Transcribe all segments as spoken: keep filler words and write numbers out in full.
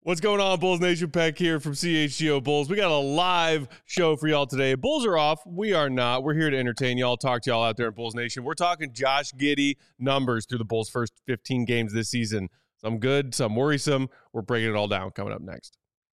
What's going on, Bulls Nation? Peck here from C H G O Bulls. We got a live show for y'all today. Bulls are off. We are not. We're here to entertain y'all, talk to y'all out there in Bulls Nation. We're talking Josh Giddey numbers through the Bulls' first fifteen games this season. Some good, some worrisome. We're breaking it all down coming up next.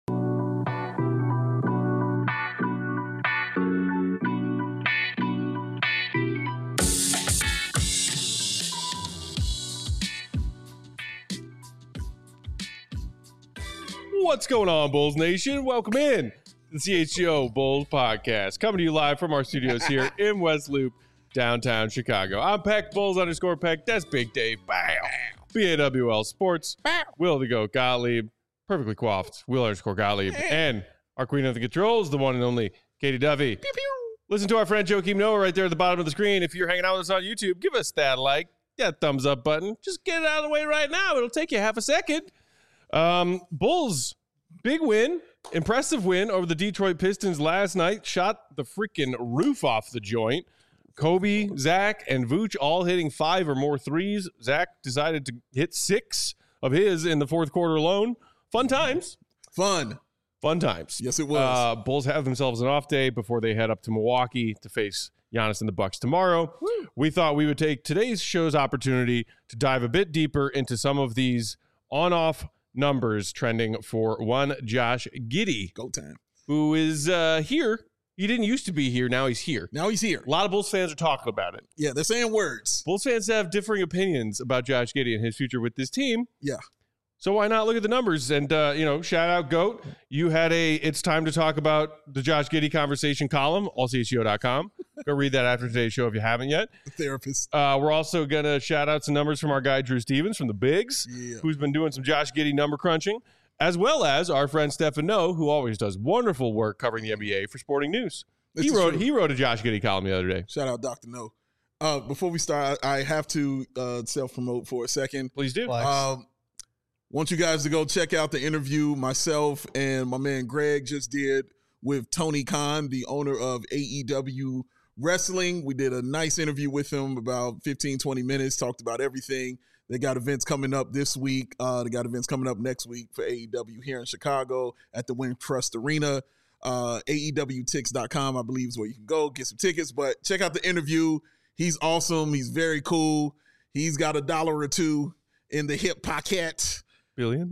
What's going on, Bulls Nation? Welcome in to the C H G O Bulls podcast, coming to you live from our studios here in West Loop, downtown Chicago. I'm Peck, Bulls underscore Peck. That's Big Dave. Bow. B A W L Sports. Bow. Will the Goat Gottlieb. Perfectly coiffed. Will underscore Gottlieb. And our queen of the controls, the one and only Katie Duffy. Pew, pew. Listen to our friend Joakim Noah right there at the bottom of the screen. If you're hanging out with us on YouTube, give us that like, that thumbs up button. Just get it out of the way right now. It'll take you half a second. Um, Bulls, big win, impressive win over the Detroit Pistons last night. Shot the freaking roof off the joint. Kobe, Zach, and Vooch all hitting five or more threes. Zach decided to hit six of his in the fourth quarter alone. Fun times. Fun. Fun times. Yes, it was. Uh, Bulls have themselves an off day before they head up to Milwaukee to face Giannis and the Bucks tomorrow. Woo. We thought we would take today's show's opportunity to dive a bit deeper into some of these on-off numbers trending for one Josh Giddey. Go time. Who is uh, here. He didn't used to be here. Now he's here. Now he's here. A lot of Bulls fans are talking about it. Yeah, they're saying words. Bulls fans have differing opinions about Josh Giddey and his future with this team. Yeah. So why not look at the numbers and, uh, you know, shout out GOAT. You had a It's Time to Talk About the Josh Giddey Conversation column, all C H G O dot com. Go read that after today's show if you haven't yet. The therapist. Uh, we're also going to shout out some numbers from our guy, Drew Stevens from the Bigs, yeah. who's been doing some Josh Giddey number crunching, as well as our friend Stefan Noe, who always does wonderful work covering the N B A for Sporting News. This he wrote true. he wrote a Josh Giddey column the other day. Shout out Doctor No. Uh, before we start, I have to uh, self-promote for a second. Please do. Um, want you guys to go check out the interview myself and my man Greg just did with Tony Khan, the owner of A E W Wrestling. We did a nice interview with him, about fifteen, twenty minutes, talked about everything. They got events coming up this week. Uh, they got events coming up next week for A E W here in Chicago at the Wintrust Arena. Uh, A E W tix dot com, I believe, is where you can go get some tickets. But check out the interview. He's awesome. He's very cool. He's got a dollar or two in the hip pocket. Billion?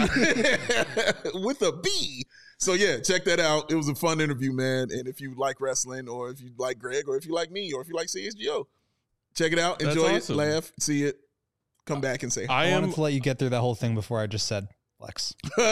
With a B. So, yeah, check that out. It was a fun interview, man. And if you like wrestling, or if you like Greg, or if you like me, or if you like C S G O, check it out. Enjoy That's awesome. it. Laugh. See it. Come back and say hi. I, I am, wanted to let you get through that whole thing before I just said flex.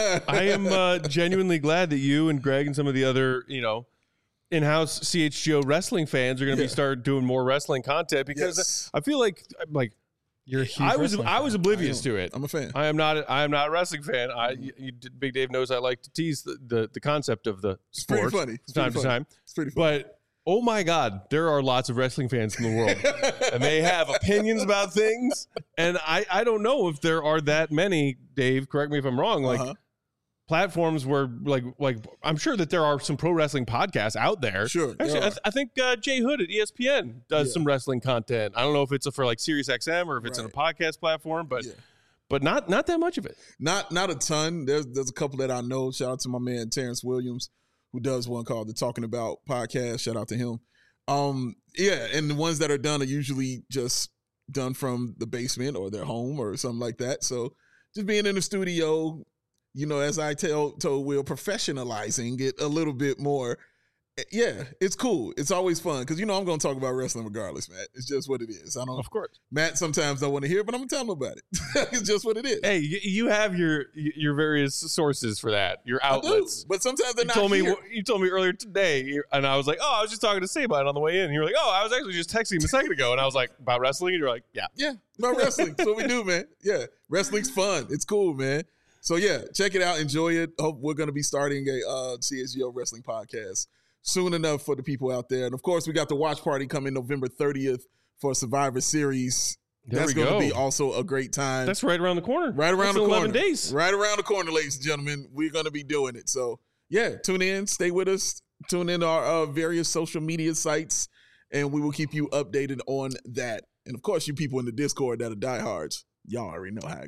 I am uh, genuinely glad that you and Greg and some of the other, you know, in-house C H G O wrestling fans are going to Yeah. be start doing more wrestling content because Yes. I feel like like You're a huge I was wrestling I was fan. oblivious I am. to it. I'm a fan. I am not I am not a wrestling fan. I you, you, Big Dave knows I like to tease the, the, the concept of the It's pretty sport funny. It's time pretty to funny. time. It's pretty funny. But oh my God, there are lots of wrestling fans in the world, and they have opinions about things. And I, I don't know if there are that many. Dave, correct me if I'm wrong. Like Uh-huh. platforms where, like, like I'm sure that there are some pro wrestling podcasts out there. Sure, there Actually, I, are. th- I think uh, Jay Hood at E S P N does Yeah. some wrestling content. I don't know if it's for like Sirius X M or if it's on a podcast platform, but Yeah. but not not that much of it. Not not a ton. There's there's a couple that I know. Shout out to my man Terrence Williams, who does one called the Talking About podcast. Shout out to him. Um, yeah, and the ones that are done are usually just done from the basement or their home or something like that. So just being in the studio, you know, as I tell told Will, professionalizing it a little bit more. Yeah, it's cool. It's always fun because, you know, I'm going to talk about wrestling regardless, Matt. It's just what it is. I don't. Of course. Matt sometimes don't want to hear, but I'm going to tell him about it. It's just what it is. Hey, you, you have your your various sources for that, your I do, outlets. but sometimes they're You not told me here. you told me earlier today, and I was like, "Oh, I was just talking to Saban on the way in." And you were like, "Oh, I was actually just texting him a second ago," and I was like, "About wrestling?" And you're like, "Yeah." Yeah, about wrestling. That's what we do, man. Yeah, wrestling's fun. It's cool, man. So yeah, check it out. Enjoy it. Hope we're going to be starting a uh, C S G O wrestling podcast soon enough for the people out there. And of course, we got the watch party coming November thirtieth for Survivor Series. There That's we going to go. be also a great time. That's right around the corner. right around That's the in corner. eleven days. Right around the corner, ladies and gentlemen. We're going to be doing it. So yeah, tune in, stay with us, tune in to our uh, various social media sites, and we will keep you updated on that. And of course, you people in the Discord that are diehards, y'all already know how it go.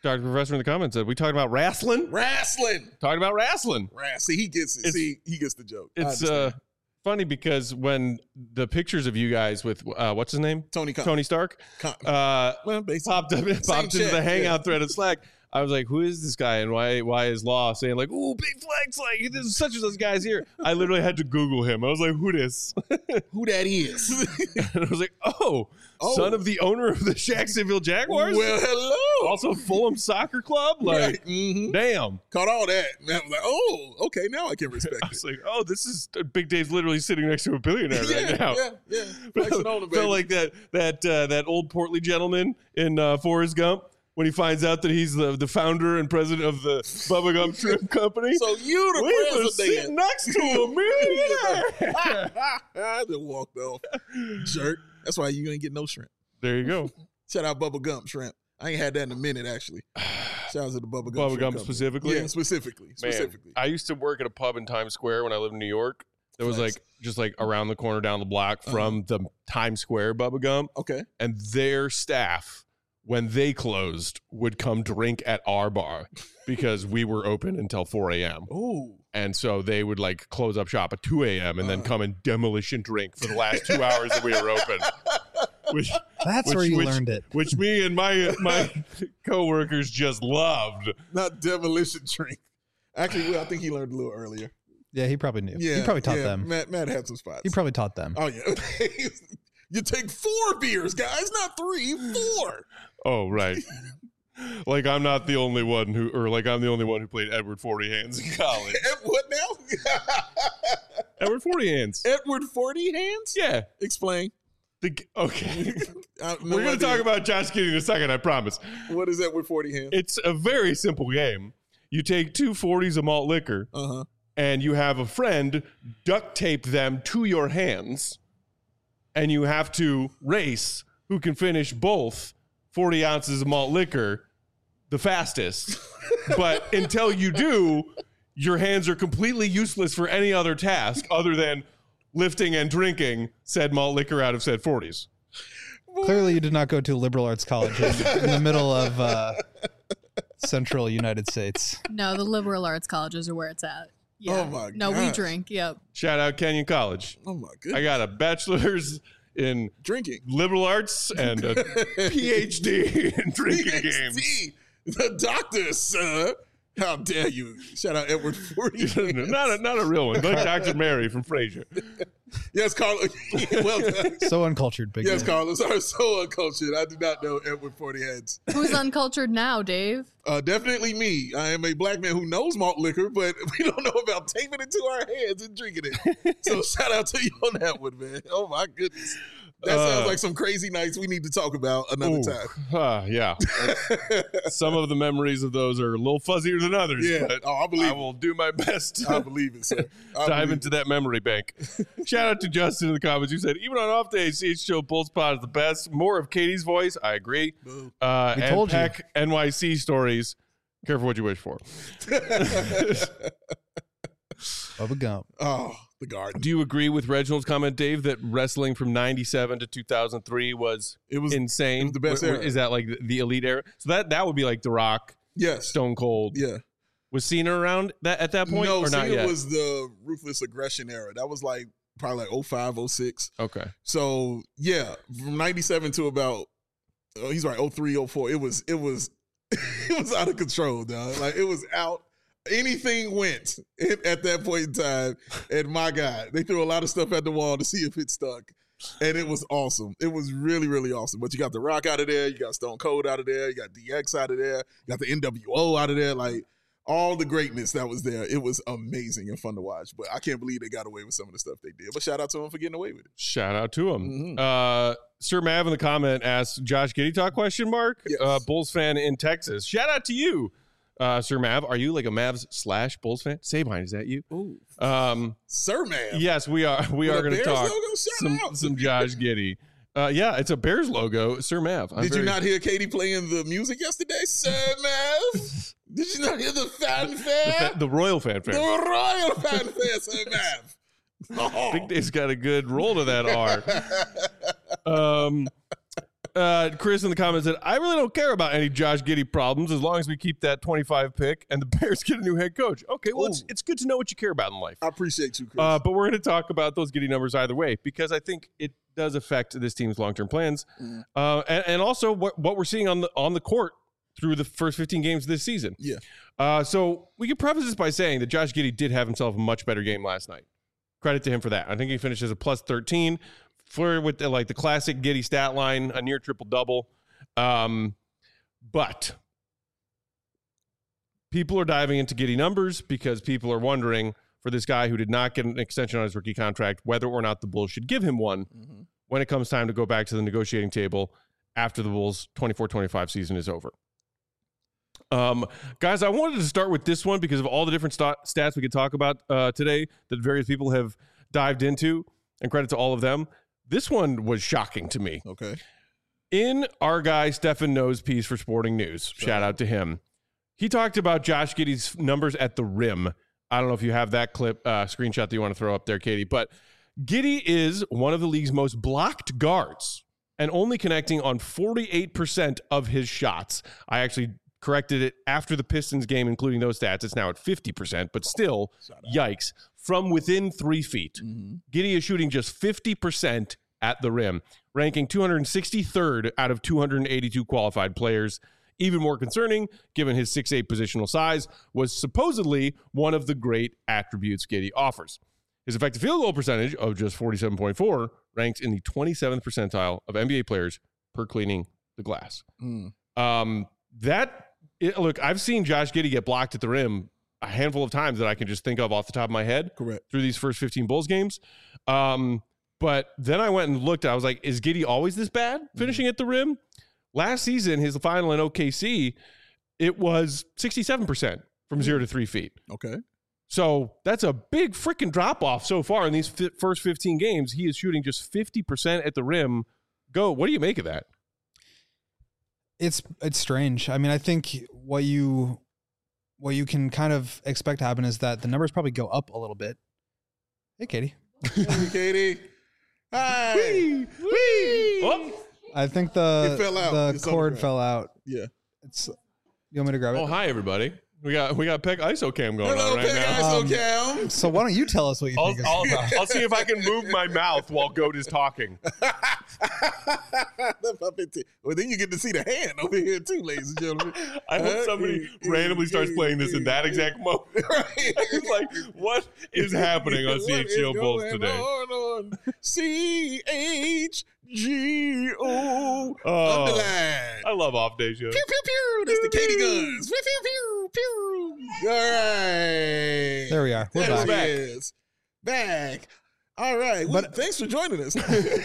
Doctor Professor in the comments said, we talking about wrestling? Wrestling. Talking about wrestling. Wrestling. See, he gets it. It's- See, he gets the joke. I It's uh, understand. funny because when the pictures of you guys with, uh, what's his name? Tony Khan. Tony Stark? Khan. Uh, well, basically. popped up, popped into chat, the hangout yeah. thread of Slack. I was like, who is this guy and why why is Law saying like, ooh, big flex, like this is such and such guys here. I literally had to Google him. I was like, who this? Who that is? And I was like, oh, Oh. son of the owner of the Jacksonville Jaguars? Well, hello. Also Fulham Soccer Club? Like, Right. Mhm. damn. Caught all that. And I was like, oh, okay, now I can respect I it. was like, oh, this is Big Dave's literally sitting next to a billionaire yeah, right now. yeah, yeah. Flexing on it, baby. Felt like that that uh, that old portly gentleman in uh, Forrest Gump when he finds out that he's the, the founder and president of the Bubba Gump Shrimp Company. So you the we were president. sitting next to a millionaire. I just walked off. Jerk. That's why you ain't get no shrimp. There you go. Shout out Bubba Gump shrimp. I ain't had that in a minute, actually. Shout out to the Bubba Gump. Bubba Shrimp Gump Company. specifically? Yeah, specifically. Man, Specifically. I used to work at a pub in Times Square when I lived in New York. It was Nice. like just like around the corner down the block from the Times Square Bubba Gump. Okay. And their staff, when they closed, would come drink at our bar because we were open until four a.m. Ooh. And so they would like close up shop at two a.m. and then Uh. come and demolition drink for the last two hours that we were open. Which, That's Which- where you which- learned it. which me and my my coworkers just loved. Not demolition drink. Actually, well, I think he learned a little earlier. Yeah, he probably knew. Yeah. he probably taught yeah, them. Matt, Matt had some spots. He probably taught them. Oh, yeah. You take four beers, guys, not three, four. Oh, right. Like I'm not the only one who, or like I'm the only one who played Edward Forty Hands in college. Ed- what now? Edward Forty Hands. Edward Forty Hands? Yeah. Explain. The, g- okay. I have no We're going to idea. talk about Josh Giddey in a second, I promise. What is Edward Forty Hands? It's a very simple game. You take two forties of malt liquor Uh huh. and you have a friend duct tape them to your hands and you have to race who can finish both forty ounces of malt liquor the fastest. But until you do, your hands are completely useless for any other task other than lifting and drinking said malt liquor out of said forties. Clearly, you did not go to a liberal arts college in, in the middle of uh, central United States. No, the liberal arts colleges are where it's at. Yeah. Oh my No, we gosh. drink. Yep. Shout out Kenyon College. Oh my goodness. I got a bachelor's in drinking. liberal arts and a P H D in drinking games. PhD. The doctor, sir. How dare you? Shout out Edward Forty Hands. not a not a real one, like Doctor Mary from Frasier. Yes, Carlos. Well done. So uncultured, big Yes, man. Carlos. I'm so uncultured. I do not know Edward Forty Hands. Who's uncultured now, Dave? Uh, definitely me. I am a black man who knows malt liquor, but we don't know about taping it to our hands and drinking it. So shout out to you on that one, man. Oh my goodness. That Uh, sounds like some crazy nights we need to talk about another Ooh, time. uh, yeah. Some of the memories of those are a little fuzzier than others, Yeah. but Oh, I believe I it. will do my best I to believe it, sir. I dive believe into that memory bank. Shout out to Justin in the comments who said, even on off days, C H Show Bulls Pod is the best. More of Katie's voice. I agree. it. Boo. Uh, We and told you. Peck N Y C stories. Careful what you wish for. Bubba Gump. Oh, the garden. Do you agree with Reginald's comment, Dave, that wrestling from ninety-seven to two thousand three was It was insane? it was the best Wh- wh- era. Is that like the- the elite era? So that that would be like The Rock, yes. Stone Cold. Yeah. Was Cena around that at that point no, or not Cena yet? was the ruthless aggression era. That was like probably like oh five, oh six. Okay. So yeah, from ninety-seven to about oh, he's right, oh three, oh four. It was it was it was out of control, dog. Like it was out. Anything went at at that point in time. And my God, they threw a lot of stuff at the wall to see if it stuck. And it was awesome. It was really, really awesome. But you got The Rock out of there, you got Stone Cold out of there, you got D X out of there, you got the N W O out of there. Like all the greatness that was there. It was amazing and fun to watch. But I can't believe they got away with some of the stuff they did. But shout out to them for getting away with it. Shout out to him. Mhm. Uh, Sir Mav in the comment asked Josh Giddey talk question mark. Yes. Uh, Bulls fan in Texas. Shout out to you, uh, Sir Mav. Are you like a Mavs slash Bulls fan? Sabine, is that you? Ooh. Um, Sir Man. yes, we are. We With are a going to Bears talk logo? Shout some out. some Josh Giddey. Uh, yeah, it's a Bears logo. Sir Mav. I'm Did very- you not hear Katie playing the music yesterday, Sir Mav? Did you not hear the fanfare? the, fa- the Royal The fanfare? royal fanfare, Sir Mav. Oh. Big Dave's got a good roll to that R. Um, Uh, Chris in the comments said, I really don't care about any Josh Giddey problems as long as we keep that twenty-five pick and the Bears get a new head coach. Okay, well, it's, it's good to know what you care about in life. I appreciate you, Chris. Uh, but we're going to talk about those Giddey numbers either way because I think it does affect this team's long-term plans. Mm. Uh, and, and also what, what we're seeing on the on the court through the first fifteen games of this season. Yeah. Uh, so we can preface this by saying that Josh Giddey did have himself a much better game last night. Credit to him for that. I think he finished as a plus thirteen for with the, like the classic Giddey stat line, a near triple-double. Um, but people are diving into Giddey numbers because people are wondering for this guy who did not get an extension on his rookie contract, whether or not the Bulls should give him one mm-hmm. when it comes time to go back to the negotiating table after the Bulls' twenty-four twenty-five season is over. Um, guys, I wanted to start with this one because of all the different st- stats we could talk about uh, today that various people have dived into, and credit to all of them. This one was shocking to me. Okay. In our guy Stefan No's piece for Sporting News, sure. shout out to him, he talked about Josh Giddey's numbers at the rim. I don't know if you have that clip, uh, screenshot that you want to throw up there, Katie, but Giddey is one of the league's most blocked guards and only connecting on forty-eight percent of his shots. I actually corrected it after the Pistons game, including those stats. It's now at fifty percent, but still, yikes. From within three feet, mm-hmm. Giddey is shooting just fifty percent at the rim, ranking two hundred sixty-third out of two hundred eighty-two qualified players. Even more concerning, given his six eight positional size, was supposedly one of the great attributes Giddey offers. His effective field goal percentage of just forty-seven point four ranks in the twenty-seventh percentile of N B A players per cleaning the glass. Mm. Um, that It, look, I've seen Josh Giddey get blocked at the rim a handful of times that I can just think of off the top of my head. Correct. Through these first fifteen Bulls games. Um, but then I went and looked. I was like, is Giddey always this bad finishing mm-hmm. at the rim? Last season, his final in O K C, it was sixty-seven percent from mm-hmm. zero to three feet. Okay. So that's a big freaking drop-off so far in these fi- first fifteen games. He is shooting just fifty percent at the rim. Go. What do you make of that? It's it's strange. I mean, I think what you what you can kind of expect to happen is that the numbers probably go up a little bit. Hey, Katie. Hey, Katie. Hi. Wee, wee. Oh. I think the fell out. the It's cord fell out. Yeah. It's. You want me to grab it? Oh, hi everybody. We got we got Peck ISOCam going Hello, on right Peck now. ISOCam. Um, so why don't you tell us what you I'll, think? I'll, Is I'll see if I can move my mouth while Goat is talking. Well, then you get to see the hand over here too, ladies and gentlemen. I hope somebody randomly starts playing this in that exact moment. Right. It's like, what is happening on C H G O Bulls today? On C H G O Oh, underline. I love off day shows. Pew pew pew. That's the Katie guns. Pew pew pew pew. All right. There we are. We're there back. it is. Back. All right. Well, But- thanks for joining us. Go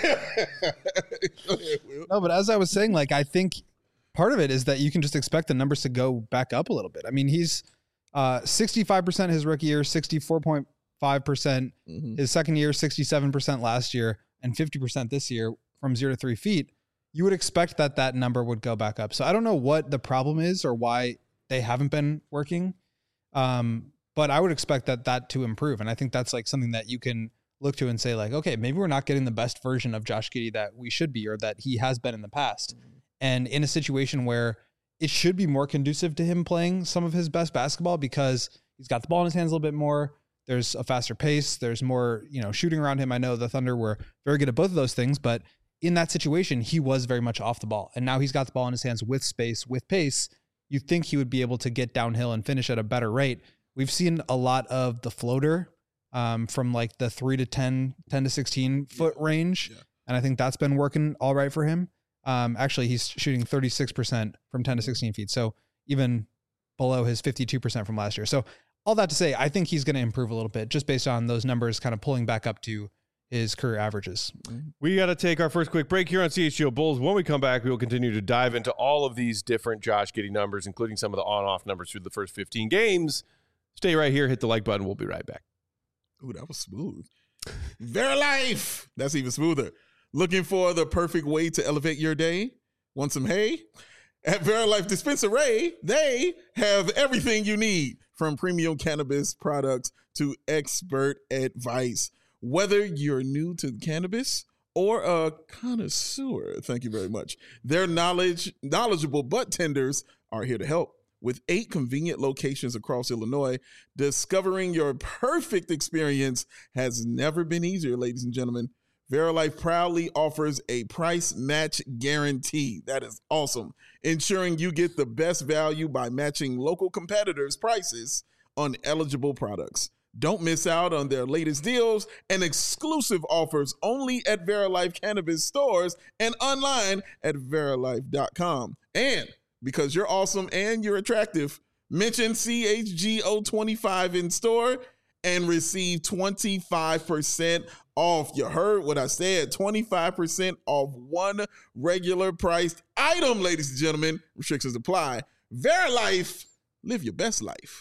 ahead, Will. No, but as I was saying, like I think part of it is that you can just expect the numbers to go back up a little bit. I mean, he's uh, sixty-five percent his rookie year, sixty-four point five percent Mhm. his second year, sixty-seven percent last year, and fifty percent this year from zero to three feet. You would expect that that number would go back up. So I don't know what the problem is or why they haven't been working. Um, but I would expect that that to improve. And I think that's like something that you can look to and say like, okay, maybe we're not getting the best version of Josh Giddey that we should be, or that he has been in the past. Mm-hmm. And in a situation where it should be more conducive to him playing some of his best basketball because he's got the ball in his hands a little bit more. There's a faster pace. There's more, you know, shooting around him. I know the Thunder were very good at both of those things, but in that situation, he was very much off the ball. And now he's got the ball in his hands with space, with pace. You think he would be able to get downhill and finish at a better rate. We've seen a lot of the floater um, from like the three to ten, ten to sixteen foot range. Yeah. And I think that's been working all right for him. Um, actually, he's shooting thirty-six percent from ten to sixteen feet. So even below his fifty-two percent from last year. So all that to say, I think he's going to improve a little bit just based on those numbers kind of pulling back up to his career averages. We got to take our first quick break here on C H G O Bulls. When we come back, we will continue to dive into all of these different Josh Giddey numbers, including some of the on-off numbers through the first fifteen games. Stay right here. Hit the like button. We'll be right back. Ooh, that was smooth. Verilife. That's even smoother. Looking for the perfect way to elevate your day? Want some hay? At Verilife Dispensary, they have everything you need, from premium cannabis products to expert advice. Whether you're new to cannabis or a connoisseur. Thank you very much. Their knowledge, knowledgeable butt tenders are here to help. With eight convenient locations across Illinois, discovering your perfect experience has never been easier, ladies and gentlemen. Verilife proudly offers a price match guarantee. That is awesome. Ensuring you get the best value by matching local competitors' prices on eligible products. Don't miss out on their latest deals and exclusive offers only at Verilife Cannabis stores and online at verilife dot com. And because you're awesome and you're attractive, mention C H G O twenty-five in store and receive twenty-five percent off. You heard what I said, twenty-five percent off one regular priced item, ladies and gentlemen. Restrictions apply. Verilife, live your best life.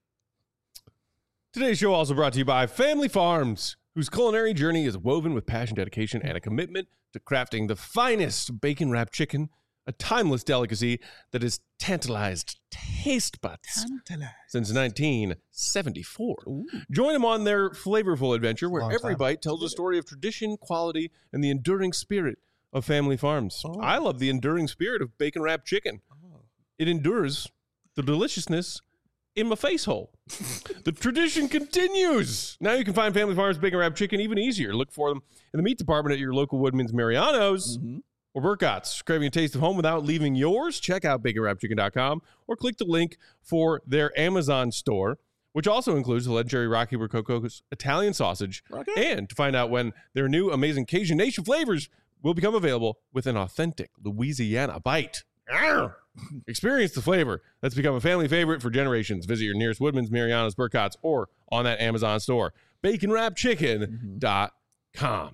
Today's show also brought to you by Family Farms, whose culinary journey is woven with passion, dedication, and a commitment to crafting the finest bacon-wrapped chicken, a timeless delicacy that has tantalized taste buds Tantalized. since nineteen seventy-four. Ooh. Join them on their flavorful adventure where Long every time. bite tells a story of tradition, quality, and the enduring spirit of Family Farms. Oh. I love the enduring spirit of bacon-wrapped chicken. Oh. It endures the deliciousness in my face hole. The tradition continues. Now you can find Family Farms bacon wrapped chicken even easier. Look for them in the meat department at your local Woodman's Mariano's Mm-hmm. or Burkott's. Craving a taste of home without leaving yours? Check out bacon wrapped chicken dot com or click the link for their Amazon store, which also includes the legendary Rocky Rococo's Italian sausage. Okay. And to find out when their new amazing Cajun Nation flavors will become available with an authentic Louisiana bite. Arr! Experience the flavor that's become a family favorite for generations. Visit your nearest Woodman's, Mariano's, Burkott's, or on that Amazon store. bacon wrapped chicken dot com.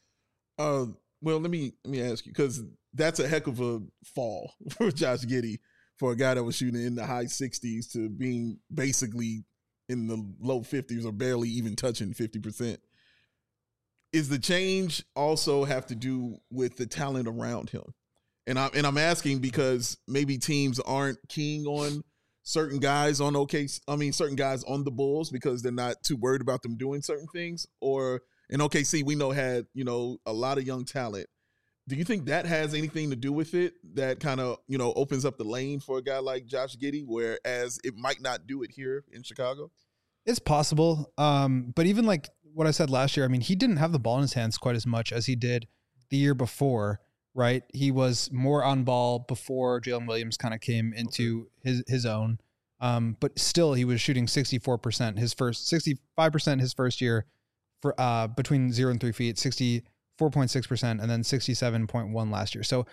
Uh, well, let me let me ask you, because that's a heck of a fall for Josh Giddey, for a guy that was shooting in the high sixties to being basically in the low fifties or barely even touching fifty percent. Is the change also have to do with the talent around him? And I'm and I'm asking because maybe teams aren't keen on certain guys on OK. I mean, certain guys on the Bulls because they're not too worried about them doing certain things. Or in O K C, we know had you know a lot of young talent. Do you think that has anything to do with it? That kind of you know opens up the lane for a guy like Josh Giddey, whereas it might not do it here in Chicago. It's possible. Um, but even like what I said last year, I mean, he didn't have the ball in his hands quite as much as he did the year before. Right. He was more on ball before Jalen Williams kind of came into okay. his, his own. Um, but still he was shooting sixty-four percent his first sixty-five percent his first year for, uh, between zero and three feet, sixty-four point six percent, and then sixty-seven point one last year. So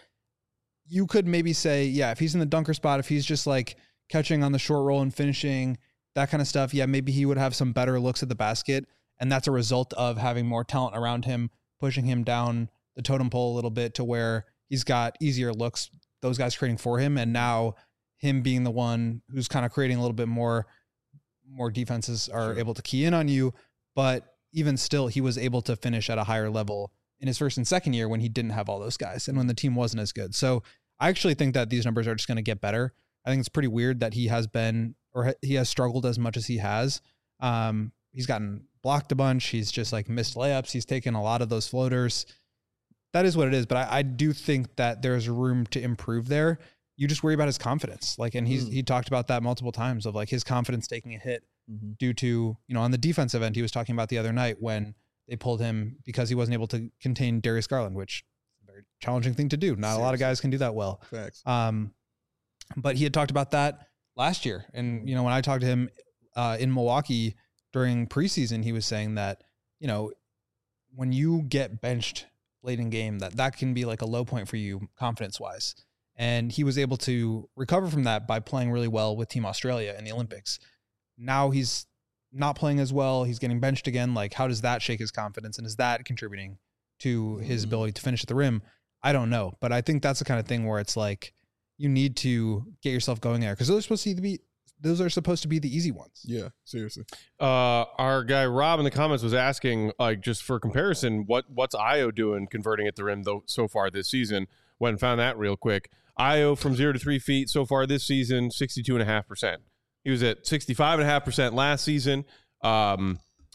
you could maybe say, yeah, if he's in the dunker spot, if he's just like catching on the short roll and finishing that kind of stuff, yeah, maybe he would have some better looks at the basket. And that's a result of having more talent around him, pushing him down the totem pole a little bit to where he's got easier looks, those guys creating for him. And now him being the one who's kind of creating a little bit more, more defenses are sure. able to key in on you. But even still, he was able to finish at a higher level in his first and second year when he didn't have all those guys and when the team wasn't as good. So I actually think that these numbers are just going to get better. I think it's pretty weird that he has been, or he has struggled as much as he has. Um, he's gotten blocked a bunch. He's just like missed layups. He's taken a lot of those floaters. That is what it is. But I, I do think that there's room to improve there. You just worry about his confidence. Like, and he's, mm. he talked about that multiple times of like his confidence taking a hit mm-hmm. due to, you know, on the defensive end, he was talking about the other night when they pulled him because he wasn't able to contain Darius Garland, which is a very challenging thing to do. Not Seriously. a lot of guys can do that well. Facts. Um, but he had talked about that last year. And, you know, when I talked to him uh, in Milwaukee during preseason, he was saying that, you know, when you get benched late in game, that that can be like a low point for you confidence wise. And he was able to recover from that by playing really well with Team Australia in the Olympics. Now he's not playing as well. He's getting benched again. Like, how does that shake his confidence? And is that contributing to his mm-hmm. ability to finish at the rim? I don't know. But I think that's the kind of thing where it's like, you need to get yourself going there because those are supposed to be, those are supposed to be the easy ones. Yeah, seriously. Uh, our guy Rob in the comments was asking, like, just for comparison, what what's Io doing converting at the rim though so far this season? Went and found that real quick. Io from zero to three feet so far this season, sixty-two and a half percent. He was at sixty-five and a half percent last season. Um,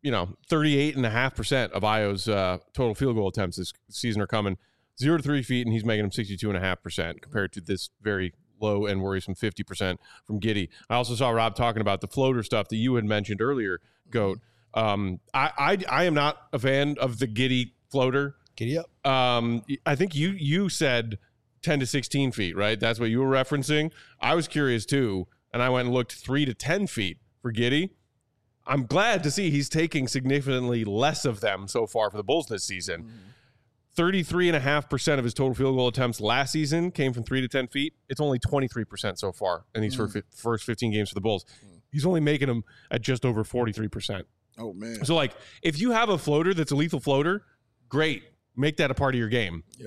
you know, thirty-eight and a half percent of Io's uh, total field goal attempts this season are coming zero to three feet, and he's making them sixty-two and a half percent compared to this very low and worrisome fifty percent from Giddey. I also saw Rob talking about the floater stuff that you had mentioned earlier, Goat. Um, I, I I am not a fan of the Giddey floater. Giddy up. Um, I think you you said ten to sixteen feet, right? That's what you were referencing. I was curious too, and I went and looked three to ten feet for Giddey. I'm glad to see he's taking significantly less of them so far for the Bulls this season. Mm-hmm. thirty-three and a half percent of his total field goal attempts last season came from three to ten feet. It's only twenty-three percent so far in these mm. first fifteen games for the Bulls. Mm. He's only making them at just over forty-three percent. Oh, man. So, like, if you have a floater that's a lethal floater, great. Make that a part of your game. Yeah.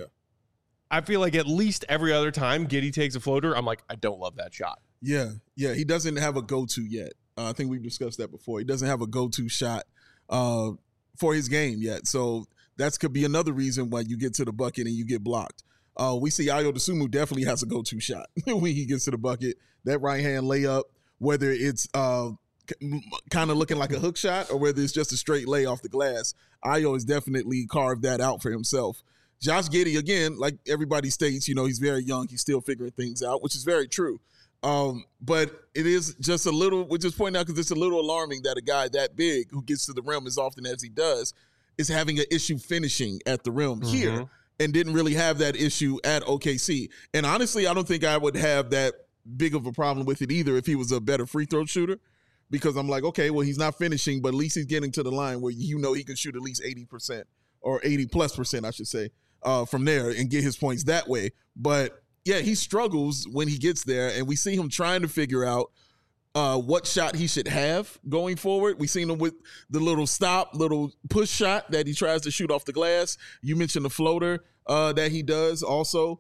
I feel like at least every other time Giddey takes a floater, I'm like, I don't love that shot. Yeah. Yeah. He doesn't have a go-to yet. Uh, I think we've discussed that before. He doesn't have a go-to shot uh, for his game yet. So that could be another reason why you get to the bucket and you get blocked. Uh, we see Ayo Dosunmu definitely has a go-to shot when he gets to the bucket. That right-hand layup, whether it's uh, kind of looking like a hook shot or whether it's just a straight lay off the glass, Ayo has definitely carved that out for himself. Josh Giddey, again, like everybody states, you know, he's very young. He's still figuring things out, which is very true. Um, but it is just a little, we're just pointing out because it's a little alarming that a guy that big who gets to the rim as often as he does is having an issue finishing at the rim mm-hmm. here and didn't really have that issue at O K C. And honestly, I don't think I would have that big of a problem with it either if he was a better free throw shooter, because I'm like, okay, well, he's not finishing, but at least he's getting to the line where you know he can shoot at least eighty percent or eighty plus percent, I should say, uh, from there and get his points that way. But yeah, he struggles when he gets there, and we see him trying to figure out uh, what shot he should have going forward. We've seen him with the little stop, little push shot that he tries to shoot off the glass. You mentioned the floater uh, that he does also.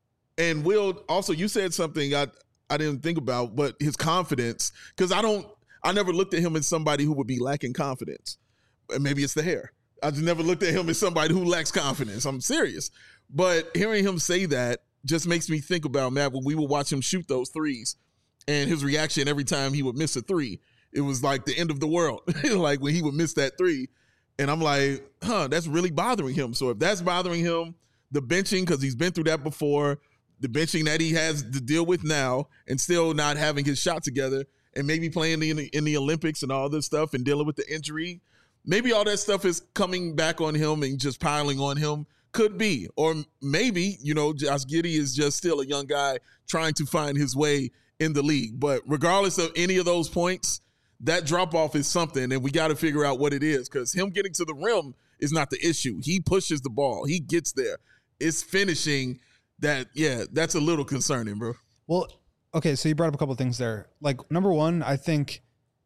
And Will, also, you said something I, I didn't think about, but his confidence, because I don't, I never looked at him as somebody who would be lacking confidence. Maybe it's the hair. I just never looked at him as somebody who lacks confidence. I'm serious. But hearing him say that just makes me think about, Matt, when we would watch him shoot those threes and his reaction every time he would miss a three. It was like the end of the world, like when he would miss that three. And I'm like, huh, that's really bothering him. So if that's bothering him, the benching, because he's been through that before, the benching that he has to deal with now and still not having his shot together and maybe playing in the, in the Olympics and all this stuff and dealing with the injury, maybe all that stuff is coming back on him and just piling on him. Could be. Or maybe, you know, Josh Giddey is just still a young guy trying to find his way in the league. But regardless of any of those points, that drop-off is something, and we got to figure out what it is, because him getting to the rim is not the issue. He pushes the ball. He gets there. It's finishing that, yeah, that's a little concerning, bro. Well, okay, so you brought up a couple of things there. Like, number one, I think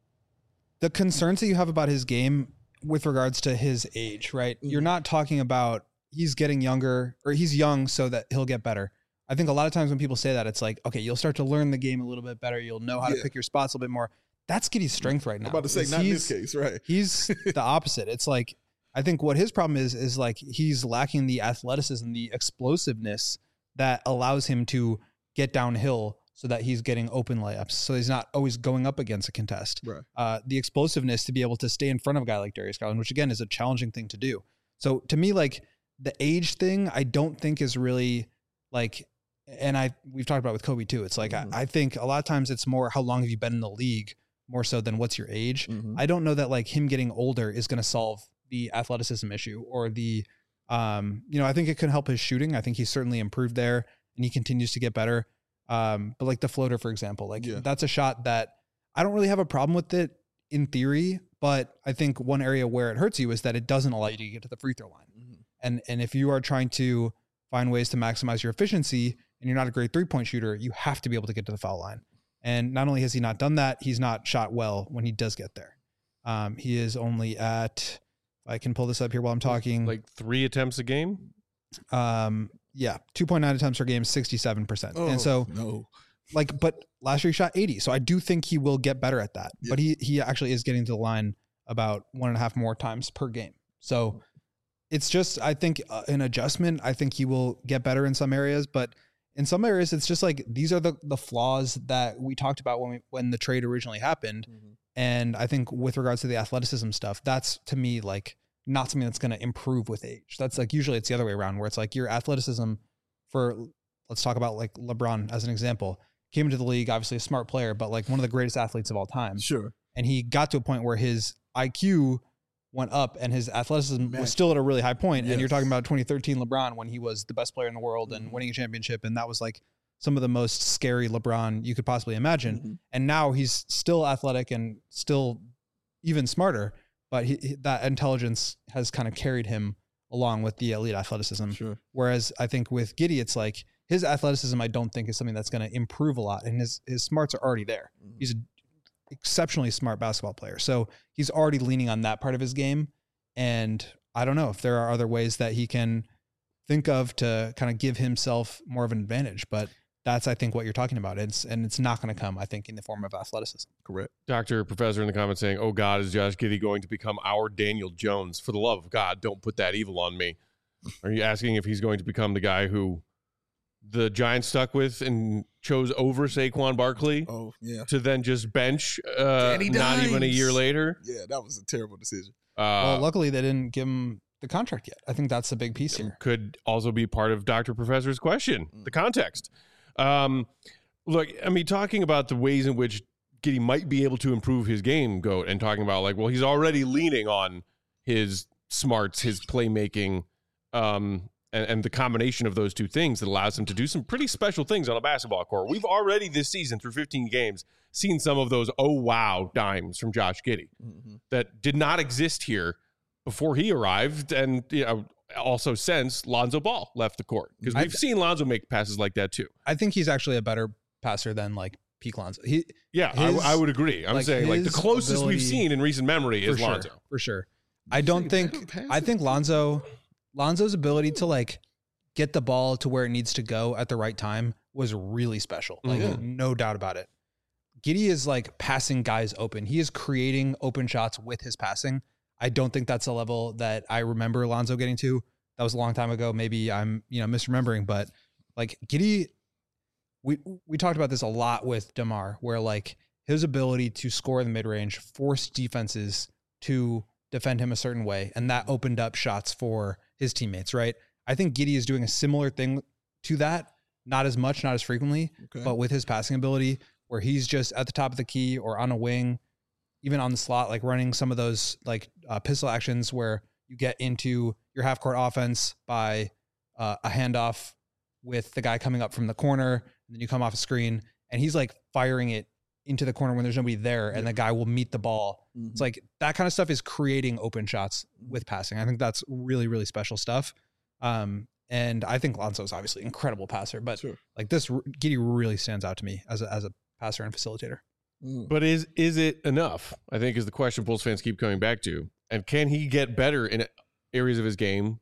the concerns that you have about his game with regards to his age, right? Mm-hmm. You're not talking about he's getting younger, or he's young so that he'll get better. I think a lot of times when people say that, it's like, okay, you'll start to learn the game a little bit better. You'll know how yeah. to pick your spots a little bit more. That's Giddey's strength right now. I'm about to say, not in this case, right? He's the opposite. It's like, I think what his problem is, is like he's lacking the athleticism, the explosiveness that allows him to get downhill so that he's getting open layups. So he's not always going up against a contest. Right. Uh, the explosiveness to be able to stay in front of a guy like Darius Garland, which again is a challenging thing to do. So to me, like, the age thing, I don't think is really like, and I, we've talked about with Kobe too. It's like, mm-hmm. I, I think a lot of times it's more, how long have you been in the league more so than what's your age. Mm-hmm. I don't know that like him getting older is going to solve the athleticism issue or the, um, you know, I think it could help his shooting. I think he's certainly improved there and he continues to get better. Um, but like the floater, for example, like yeah. that's a shot that I don't really have a problem with it in theory, but I think one area where it hurts you is that it doesn't allow you to get to the free throw line. Mm-hmm. And and if you are trying to find ways to maximize your efficiency and you're not a great three-point shooter, you have to be able to get to the foul line. And not only has he not done that, he's not shot well when he does get there. Um, he is only at, I can pull this up here while I'm talking. Like three attempts a game? Um, yeah, two point nine attempts per game, sixty-seven percent. Oh, and so, no. like, but last year he shot eighty. So I do think he will get better at that. Yep. But he he actually is getting to the line about one and a half more times per game. So it's just, I think, uh, an adjustment. I think he will get better in some areas, but in some areas, it's just like, these are the, the flaws that we talked about when we, when the trade originally happened. Mm-hmm. And I think with regards to the athleticism stuff, that's to me like not something that's going to improve with age. That's like usually it's the other way around where it's like your athleticism for, let's talk about like LeBron as an example, came into the league, obviously a smart player, but like one of the greatest athletes of all time. Sure. And he got to a point where his I Q went up and his athleticism Man. was still at a really high point. Yes. And you're talking about twenty thirteen LeBron when he was the best player in the world and winning a championship. And that was like some of the most scary LeBron you could possibly imagine. Mm-hmm. And now he's still athletic and still even smarter, but he, he, that intelligence has kind of carried him along with the elite athleticism. Sure. Whereas I think with Giddey, it's like his athleticism, I don't think is something that's going to improve a lot. And his, his smarts are already there. Mm-hmm. He's an exceptionally smart basketball player. So he's already leaning on that part of his game. And I don't know if there are other ways that he can think of to kind of give himself more of an advantage, but that's, I think, what you're talking about. It's and it's not going to come, I think, in the form of athleticism. Correct. Doctor Professor in the comments saying, oh, God, is Josh Giddey going to become our Daniel Jones? For the love of God, don't put that evil on me. Are you asking if he's going to become the guy who the Giants stuck with and chose over Saquon Barkley oh, yeah. to then just bench uh, not even a year later? Yeah, that was a terrible decision. Uh, well, luckily, they didn't give him the contract yet. I think that's the big piece here. Could also be part of Doctor Professor's question, mm. the context. Um, look, I mean, talking about the ways in which Giddey might be able to improve his game, Goat, and talking about like, well, he's already leaning on his smarts, his playmaking, um, and, and the combination of those two things that allows him to do some pretty special things on a basketball court. We've already this season through fifteen games seen some of those oh wow dimes from Josh Giddey mm-hmm. that did not exist here before he arrived, and you know. Also, since Lonzo Ball left the court, because we've I've, seen Lonzo make passes like that too. I think he's actually a better passer than like peak Lonzo. He, yeah, his, I, I would agree. I'm like saying like the closest ability, we've seen in recent memory is sure, Lonzo for sure. I don't think. I think Lonzo, Lonzo's ability to like get the ball to where it needs to go at the right time was really special. Like mm-hmm. no doubt about it. Giddey is like passing guys open. He is creating open shots with his passing. I don't think that's a level that I remember Lonzo getting to. That was a long time ago. Maybe I'm, you know, misremembering, but like Giddey, we, we talked about this a lot with DeMar, where like his ability to score in the mid range forced defenses to defend him a certain way. And that opened up shots for his teammates. Right. I think Giddey is doing a similar thing to that. Not as much, not as frequently, okay. but with his passing ability where he's just at the top of the key or on a wing, even on the slot, like running some of those like uh, pistol actions where you get into your half court offense by uh, a handoff with the guy coming up from the corner, and then you come off a screen and he's like firing it into the corner when there's nobody there and the guy will meet the ball. Mm-hmm. It's like that kind of stuff is creating open shots with passing. I think that's really, really special stuff. Um, and I think Lonzo's obviously an incredible passer, but sure. like this Giddey really stands out to me as a, as a passer and facilitator. But is is it enough? I think is the question Bulls fans keep coming back to. And can he get better in areas of his game,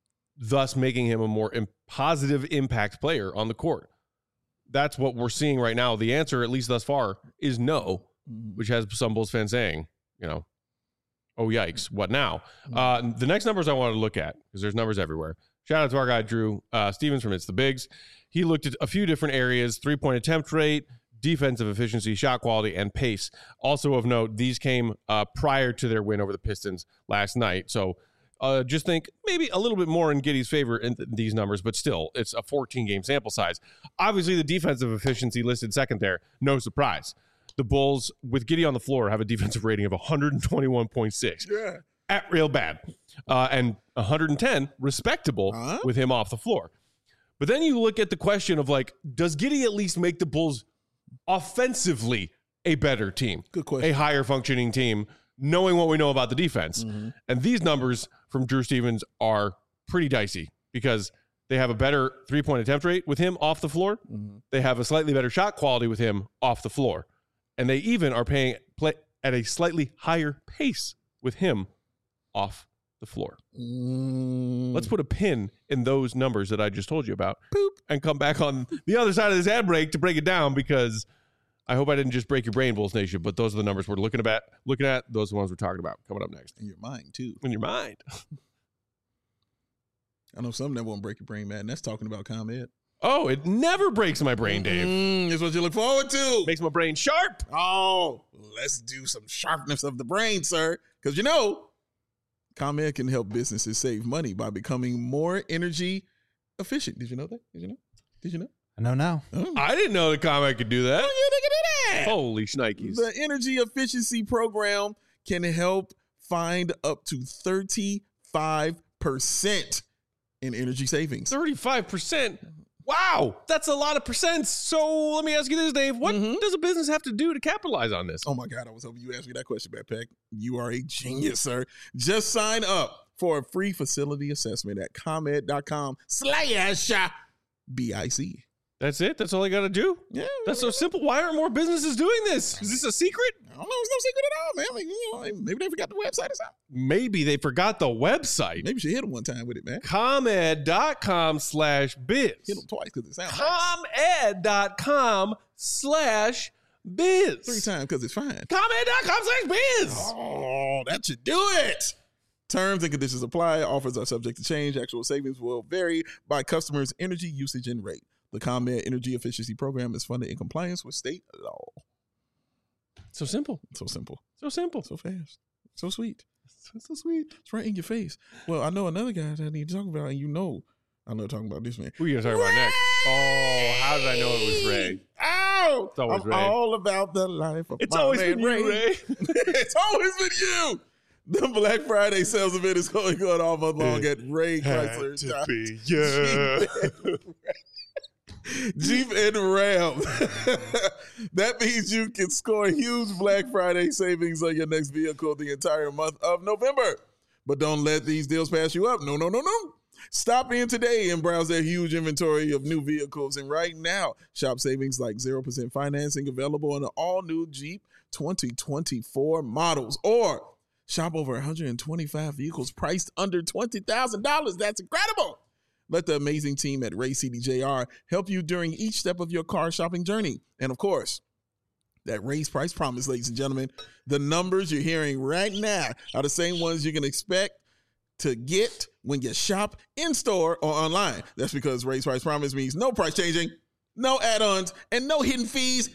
thus making him a more positive impact player on the court? That's what we're seeing right now. The answer, at least thus far, is no, which has some Bulls fans saying, you know, oh, yikes, what now? Uh, the next numbers I want to look at, because there's numbers everywhere. Shout out to our guy, Drew uh, Stevens from It's the Bigs. He looked at a few different areas, three-point attempt rate, defensive efficiency, shot quality, and pace. Also of note, these came uh, prior to their win over the Pistons last night. So uh, just think maybe a little bit more in Giddey's favor in th- these numbers, but still, it's a fourteen-game sample size. Obviously, the defensive efficiency listed second there, no surprise. The Bulls, with Giddey on the floor, have a defensive rating of one twenty-one point six. Yeah. At real bad. Uh, and one hundred ten, respectable, uh-huh. with him off the floor. But then you look at the question of, like, does Giddey at least make the Bulls offensively a better team? Good question. A higher functioning team, knowing what we know about the defense. Mm-hmm. And these numbers from Drew Stevens are pretty dicey because they have a better three-point attempt rate with him off the floor. Mm-hmm. They have a slightly better shot quality with him off the floor. And they even are paying play at a slightly higher pace with him off the floor. Mm. Let's put a pin in those numbers that I just told you about. Boop. And come back on the other side of this ad break to break it down, because I hope I didn't just break your brain, Bulls Nation, but those are the numbers we're looking at. Looking at those are the ones we're talking about coming up next. In your mind, too. In your mind. I know something that won't break your brain, man. That's talking about ComEd. Oh, it never breaks my brain, Dave. Mm, it's what you look forward to. Makes my brain sharp. Oh, let's do some sharpness of the brain, sir. Because you know, ComEd can help businesses save money by becoming more energy efficient. Did you know that? Did you know? Did you know? I know now. Oh. I didn't know the comic could do that. Oh, yeah, they can do that. Holy shnikes. The energy efficiency program can help find up to thirty-five percent in energy savings. thirty-five percent. Wow, that's a lot of percents. So let me ask you this, Dave. What Mhm. does a business have to do to capitalize on this? Oh my God, I was hoping you asked me that question, Backpack. You are a genius, sir. Just sign up for a free facility assessment at ComEd.com slash BIC. That's it? That's all I got to do? Yeah. That's so simple. Why aren't more businesses doing this? Is this a secret? I don't know. It's no secret at all, man. Like, you know, maybe they forgot the website or something. Maybe they forgot the website. Maybe you should hit them one time with it, man. ComEd.com slash biz. Hit them twice because it sounds nice. ComEd.com slash biz. Three times because it's fine. ComEd.com slash biz. Oh, that should do it. Terms and conditions apply. Offers are subject to change. Actual savings will vary by customer's energy usage and rate. The ComEd Energy Efficiency Program is funded in compliance with state law. So simple. So simple. So simple. So fast. So sweet. So, so sweet. It's right in your face. Well, I know another guy that I need to talk about, and you know I know talking about this man. Who are you going to talk about next? Oh, how did I know it was Ray? Ow! It's always I'm Ray. all about the life of It's my always man been you, Ray. It's always been you. The Black Friday sales event is going on all month long at Ray Chrysler. to be yeah. Jeep and Ram. That means you can score huge Black Friday savings on your next vehicle the entire month of November. But don't let these deals pass you up. No, no, no, no. Stop in today and browse their huge inventory of new vehicles. And right now, shop savings like zero percent financing available on the all-new Jeep twenty twenty-four models. Or shop over one hundred twenty-five vehicles priced under twenty thousand dollars. That's incredible. Let the amazing team at Ray C D J R help you during each step of your car shopping journey. And of course, that Ray's Price Promise, ladies and gentlemen, the numbers you're hearing right now are the same ones you can expect to get when you shop in-store or online. That's because Ray's Price Promise means no price changing, no add-ons, and no hidden fees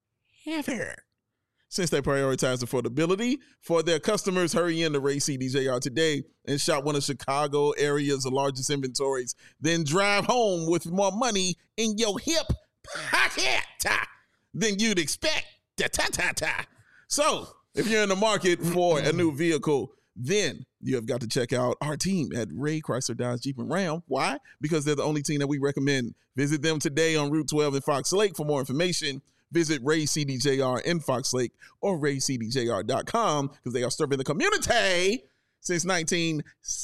ever. Since they prioritize affordability for their customers, hurry in to Ray C D J R today and shop one of Chicago area's largest inventories. Then drive home with more money in your hip pocket than you'd expect. Ta-ta-ta-ta. So, if you're in the market for a new vehicle, then you have got to check out our team at Ray Chrysler Dodge Jeep and Ram. Why? Because they're the only team that we recommend. Visit them today on Route twelve in Fox Lake for more information. Visit Ray C D J R in Fox Lake or ray c d j r dot com because they are serving the community since nineteen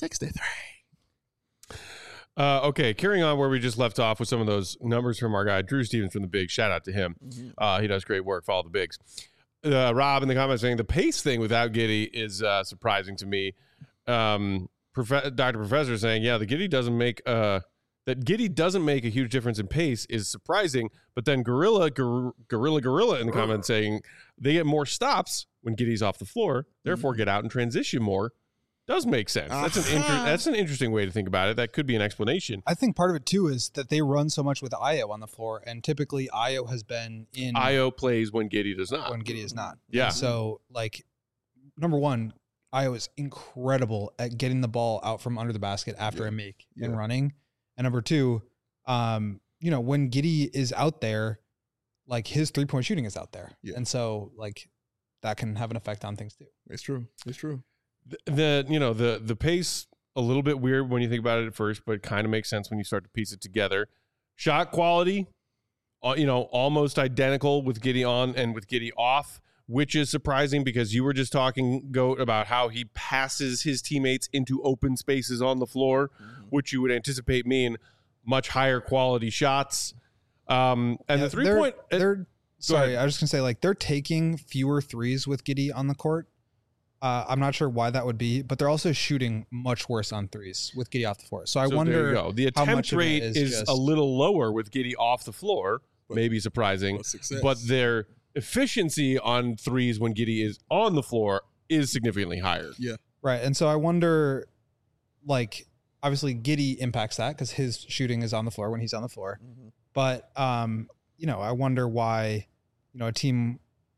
sixty-three. Uh, okay, carrying on where we just left off with some of those numbers from our guy, Drew Stevens from The Big. Shout out to him. Mm-hmm. Uh, he does great work. Follow The Bigs. Uh, Rob in the comments saying the pace thing without Giddy is uh, surprising to me. Um, Prof- Doctor Professor saying, yeah, the Giddy doesn't make uh, that Giddy doesn't make a huge difference in pace is surprising. But then Gorilla, Gor- Gorilla, Gorilla in the comments saying they get more stops when Giddy's off the floor, therefore get out and transition more. Does make sense. That's an inter- that's an interesting way to think about it. That could be an explanation. I think part of it too is that they run so much with Io on the floor, and typically Io has been in Io plays when Giddy does not. when Giddy is not. Yeah. And so, like, number one, Io is incredible at getting the ball out from under the basket after Yeah. a make Yeah. and running. And number two, um, you know, when Giddy is out there, like his three point shooting is out there, Yeah. and so like that can have an effect on things too. It's true. It's true. The, the you know the the pace a little bit weird when you think about it at first, but it kind of makes sense when you start to piece it together. Shot quality, uh, you know, almost identical with Giddy on and with Giddy off, which is surprising because you were just talking, Goat, about how he passes his teammates into open spaces on the floor, mm-hmm. which you would anticipate mean much higher quality shots. Um, and Yeah, the three they're, point, uh, they're sorry, ahead. I was just gonna say like they're taking fewer threes with Giddy on the court. Uh, I'm not sure why that would be, but they're also shooting much worse on threes with Giddy off the floor. So I so wonder. there you go. The how attempt much of it rate is is, just- a little lower with Giddy off the floor, But- maybe surprising, but success. but their efficiency on threes when Giddy is on the floor is significantly higher. Yeah. Right. And so I wonder, like, obviously Giddey impacts that because his shooting is on the floor when he's on the floor. Mm-hmm. But, um, you know, I wonder why, you know, a team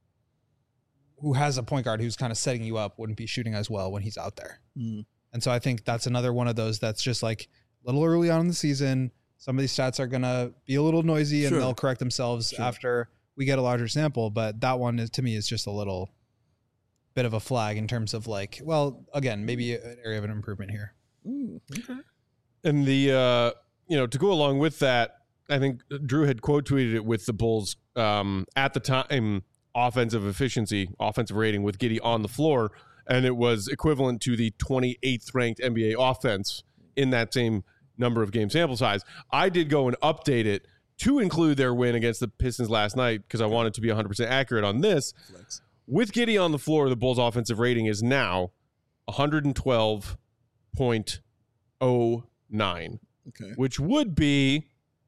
who has a point guard who's kind of setting you up wouldn't be shooting as well when he's out there. Mm-hmm. And so I think that's another one of those that's just like a little early on in the season. Some of these stats are going to be a little noisy and sure. they'll correct themselves sure. after we get a larger sample. But that one is, to me, is just a little bit of a flag in terms of like, well, again, maybe an area of an improvement here. Ooh, okay. And the, uh, you know, to go along with that, I think Drew had quote tweeted it with the Bulls um, at the time offensive efficiency, offensive rating with Giddey on the floor. And it was equivalent to the twenty-eighth ranked N B A offense in that same number of game sample size. I did go and update it to include their win against the Pistons last night because I wanted to be one hundred percent accurate on this. Flex. With Giddey on the floor, the Bulls' offensive rating is now one twelve point oh nine, okay. which would be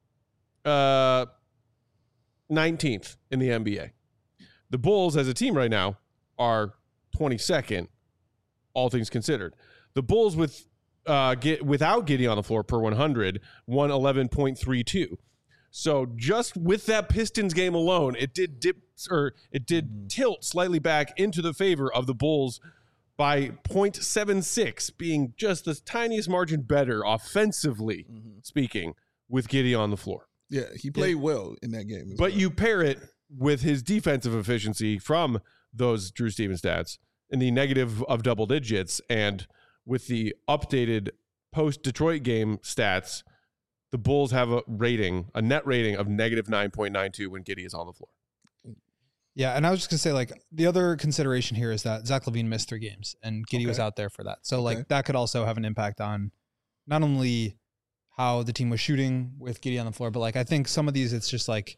uh, nineteenth in the N B A. The Bulls, as a team right now, are twenty-second, all things considered. The Bulls with uh, get without Giddey on the floor per one hundred, won eleven point three two. So just with that Pistons game alone, it did dip or it did mm-hmm. tilt slightly back into the favor of the Bulls by zero point seven six, being just the tiniest margin better offensively mm-hmm. speaking with Giddey on the floor. Yeah, he played yeah. well in that game. But well. you pair it with his defensive efficiency from those Drew Stevens stats in the negative of double digits, and with the updated post-Detroit game stats, the Bulls have a rating, a net rating of negative nine point nine two when Giddey is on the floor. Yeah, and I was just going to say, like, the other consideration here is that Zach LaVine missed three games, and Giddey okay. was out there for that. So, like, okay. that could also have an impact on not only how the team was shooting with Giddey on the floor, but, like, I think some of these, it's just, like,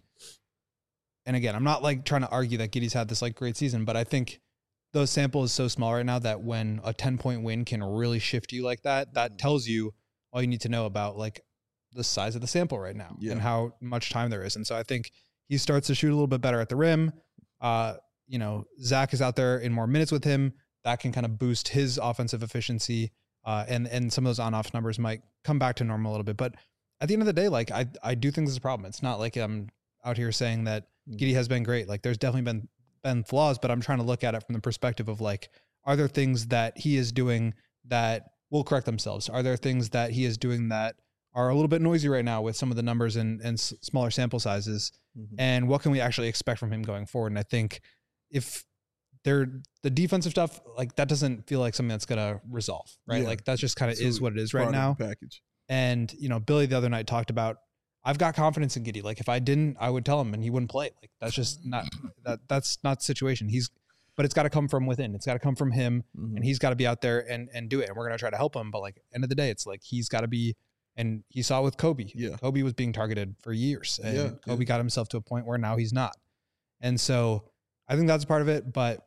and again, I'm not, like, trying to argue that Giddey's had this, like, great season, but I think those samples so small right now that when a ten-point win can really shift you like that, that tells you all you need to know about, like, the size of the sample right now yeah. and how much time there is. And so I think he starts to shoot a little bit better at the rim. Uh, you know, Zach is out there in more minutes with him. That can kind of boost his offensive efficiency. Uh, and, and some of those on-off numbers might come back to normal a little bit. But at the end of the day, like, I, I do think this is a problem. It's not like I'm out here saying that Giddey has been great. Like, there's definitely been, been flaws, but I'm trying to look at it from the perspective of, like, are there things that he is doing that will correct themselves? Are there things that he is doing that are a little bit noisy right now with some of the numbers and, and s- smaller sample sizes? Mm-hmm. And what can we actually expect from him going forward? And I think if they're the defensive stuff, like, that doesn't feel like something that's going to resolve, right? Yeah. Like, that's just kind of is what it is right now. Package. And, you know, Billy the other night talked about, I've got confidence in Giddey. Like, if I didn't, I would tell him and he wouldn't play. Like, that's just not, that that's not the situation. He's, but it's got to come from within. It's got to come from him mm-hmm. and he's got to be out there and, and do it. And we're going to try to help him. But, like, end of the day, it's like, he's got to be, and he saw it with Kobe. Yeah. Kobe was being targeted for years, and yeah, Kobe yeah. got himself to a point where now he's not. And so I think that's part of it. But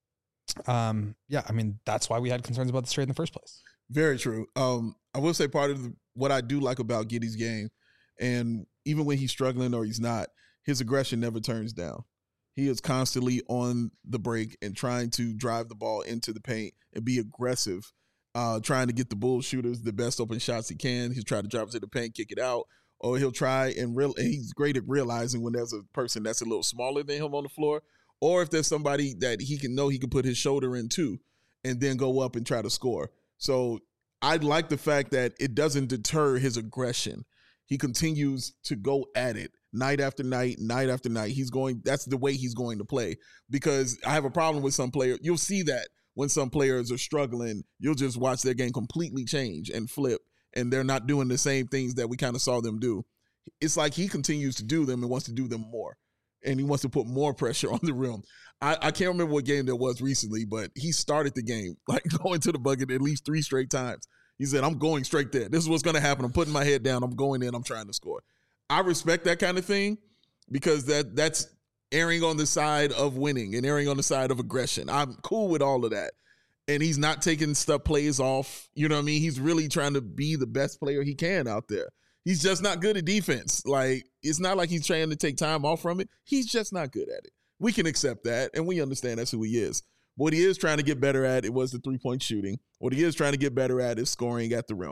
um, yeah, I mean, that's why we had concerns about this trade in the first place. Very true. Um, I will say part of the, what I do like about Giddey's game, and even when he's struggling or he's not, his aggression never turns down. He is constantly on the break and trying to drive the ball into the paint and be aggressive. Uh, trying to get the Bulls shooters the best open shots he can. He's trying to drive to the paint, kick it out, or he'll try and real. And he's great at realizing when there's a person that's a little smaller than him on the floor, or if there's somebody that he can know he can put his shoulder into, and then go up and try to score. So I like the fact that it doesn't deter his aggression. He continues to go at it night after night, night after night. He's going. That's the way he's going to play. Because I have a problem with some players. You'll see that. When some players are struggling, you'll just watch their game completely change and flip, and they're not doing the same things that we kind of saw them do. It's like he continues to do them and wants to do them more, and he wants to put more pressure on the rim. I, I can't remember what game there was recently, but he started the game, like, going to the bucket at least three straight times. He said, I'm going straight there. This is what's going to happen. I'm putting my head down. I'm going in. I'm trying to score. I respect that kind of thing because that that's – erring on the side of winning and erring on the side of aggression. I'm cool with all of that. And he's not taking stuff plays off. You know what I mean? He's really trying to be the best player he can out there. He's just not good at defense. Like, it's not like he's trying to take time off from it. He's just not good at it. We can accept that, and we understand that's who he is. What he is trying to get better at, it was the three-point shooting. What he is trying to get better at is scoring at the rim.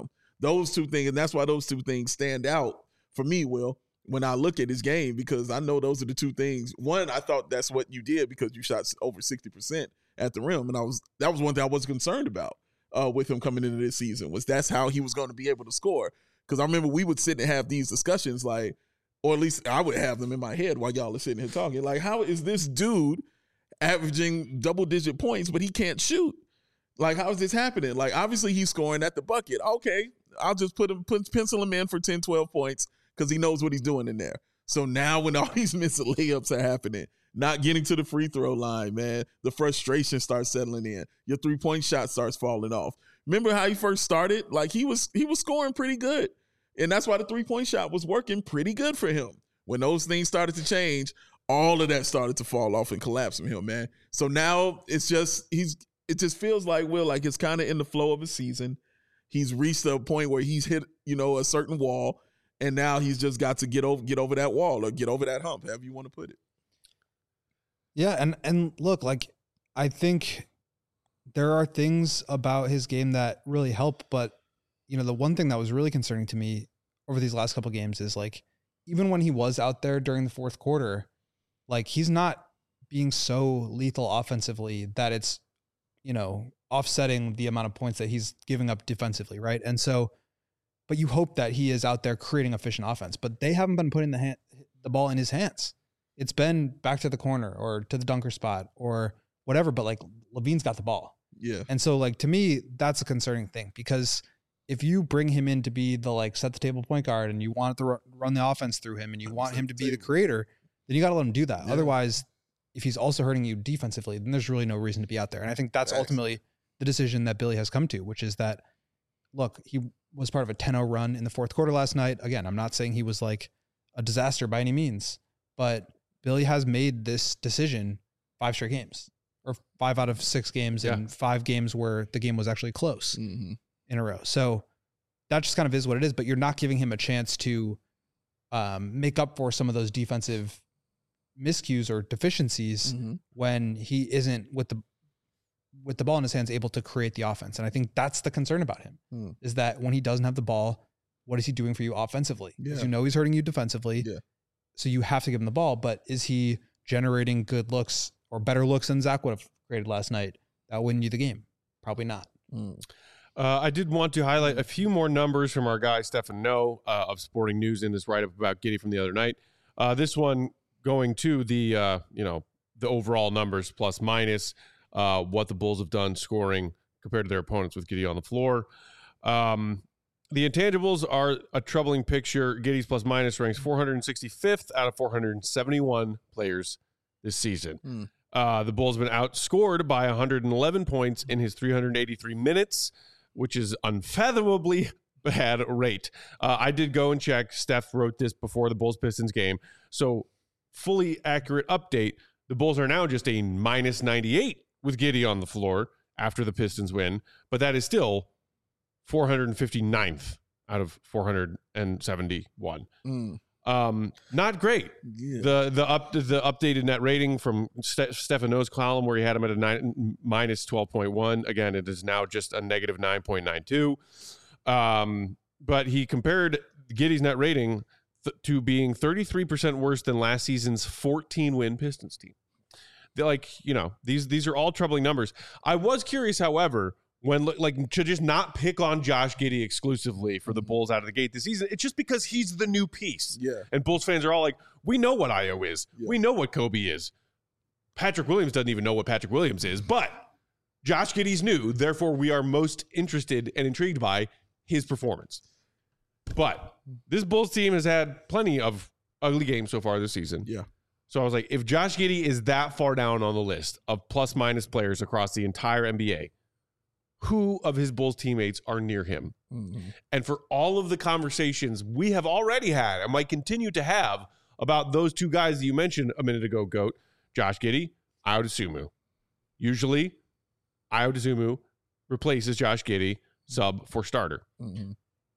those two things, and that's why those two things stand out for me, Will, when I look at his game, because I know those are the two things. One, I thought that's what you did because you shot over sixty percent at the rim, and I was that was one thing I was concerned about uh, with him coming into this season, was that's how he was going to be able to score. Because I remember we would sit and have these discussions, like, or at least I would have them in my head while y'all are sitting here talking, like, how is this dude averaging double-digit points, but he can't shoot? Like, how is this happening? Like, obviously he's scoring at the bucket. Okay, I'll just put him, put, pencil him in for ten, twelve points because he knows what he's doing in there. So now when all these missed layups are happening, not getting to the free throw line, man, the frustration starts settling in. Your three-point shot starts falling off. Remember how he first started? Like, he was he was scoring pretty good. And that's why the three-point shot was working pretty good for him. When those things started to change, all of that started to fall off and collapse from him, man. So now it's just, he's, it just feels like, Will, like it's kind of in the flow of a season. He's reached a point where he's hit, you know, a certain wall, and now he's just got to get over, get over that wall or get over that hump, however you want to put it. Yeah, and and look, like, I think there are things about his game that really help, but you know, the one thing that was really concerning to me over these last couple of games is, like, even when he was out there during the fourth quarter, like, he's not being so lethal offensively that it's, you know, offsetting the amount of points that he's giving up defensively, right? And so, but you hope that he is out there creating efficient offense, but they haven't been putting the hand, the ball in his hands. It's been back to the corner or to the dunker spot or whatever, but like, Levine's got the ball. Yeah. And so, like, to me, that's a concerning thing, because if you bring him in to be the, like, set the table point guard and you want to run the offense through him and you want him to be the creator, then you got to let him do that. Yeah. Otherwise, if he's also hurting you defensively, then there's really no reason to be out there. And I think that's ultimately the decision that Billy has come to, which is that, look, he was part of a ten oh run in the fourth quarter last night. Again, I'm not saying he was like a disaster by any means, but Billy has made this decision five straight games, or five out of six games, yeah. and five games where the game was actually close mm-hmm. in a row. So that just kind of is what it is, but you're not giving him a chance to um, make up for some of those defensive miscues or deficiencies mm-hmm. when he isn't with the with the ball in his hands able to create the offense. And I think that's the concern about him mm. is that when he doesn't have the ball, what is he doing for you offensively? Because yeah. you know he's hurting you defensively. Yeah. So you have to give him the ball, but is he generating good looks or better looks than Zach would have created last night that win you the game? Probably not. Mm. Uh, I did want to highlight a few more numbers from our guy, Stefan No, uh, of Sporting News in this write-up about Giddey from the other night. Uh, this one going to the, uh, you know, the overall numbers plus minus, uh, what the Bulls have done scoring compared to their opponents with Giddey on the floor. Um, The intangibles are a troubling picture. Giddey's plus minus ranks four hundred sixty-fifth out of four hundred seventy-one players this season. Mm. Uh, the Bulls have been outscored by one hundred eleven points in his three hundred eighty-three minutes, which is unfathomably bad rate. Uh, I did go and check. Steph wrote this before the Bulls-Pistons game. So fully accurate update. The Bulls are now just a minus ninety-eight with Giddey on the floor after the Pistons win, but that is still four hundred fifty-ninth out of four hundred seventy-one. Mm. Um, not great. Yeah. The the up the updated net rating from Ste- Stefano's column, where he had him at a nine, minus twelve point one. Again, it is now just a negative nine point nine two. Um, but he compared Giddey's net rating th- to being thirty-three percent worse than last season's fourteen win Pistons team. They're like, you know, these these are all troubling numbers. I was curious, however, when, like, to just not pick on Josh Giddey exclusively for the Bulls out of the gate this season. It's just because he's the new piece. Yeah. And Bulls fans are all like, we know what Io is. Yeah. We know what Kobe is. Patrick Williams doesn't even know what Patrick Williams is, but Josh Giddey's new. Therefore, we are most interested and intrigued by his performance. But this Bulls team has had plenty of ugly games so far this season. Yeah. So I was like, if Josh Giddey is that far down on the list of plus minus players across the entire N B A, who of his Bulls teammates are near him? Mm-hmm. And for all of the conversations we have already had and might continue to have about those two guys that you mentioned a minute ago, Goat, Josh Giddey, Ayo Dosunmu. Usually, Ayo Dosunmu replaces Josh Giddey, sub for starter. Mm-hmm.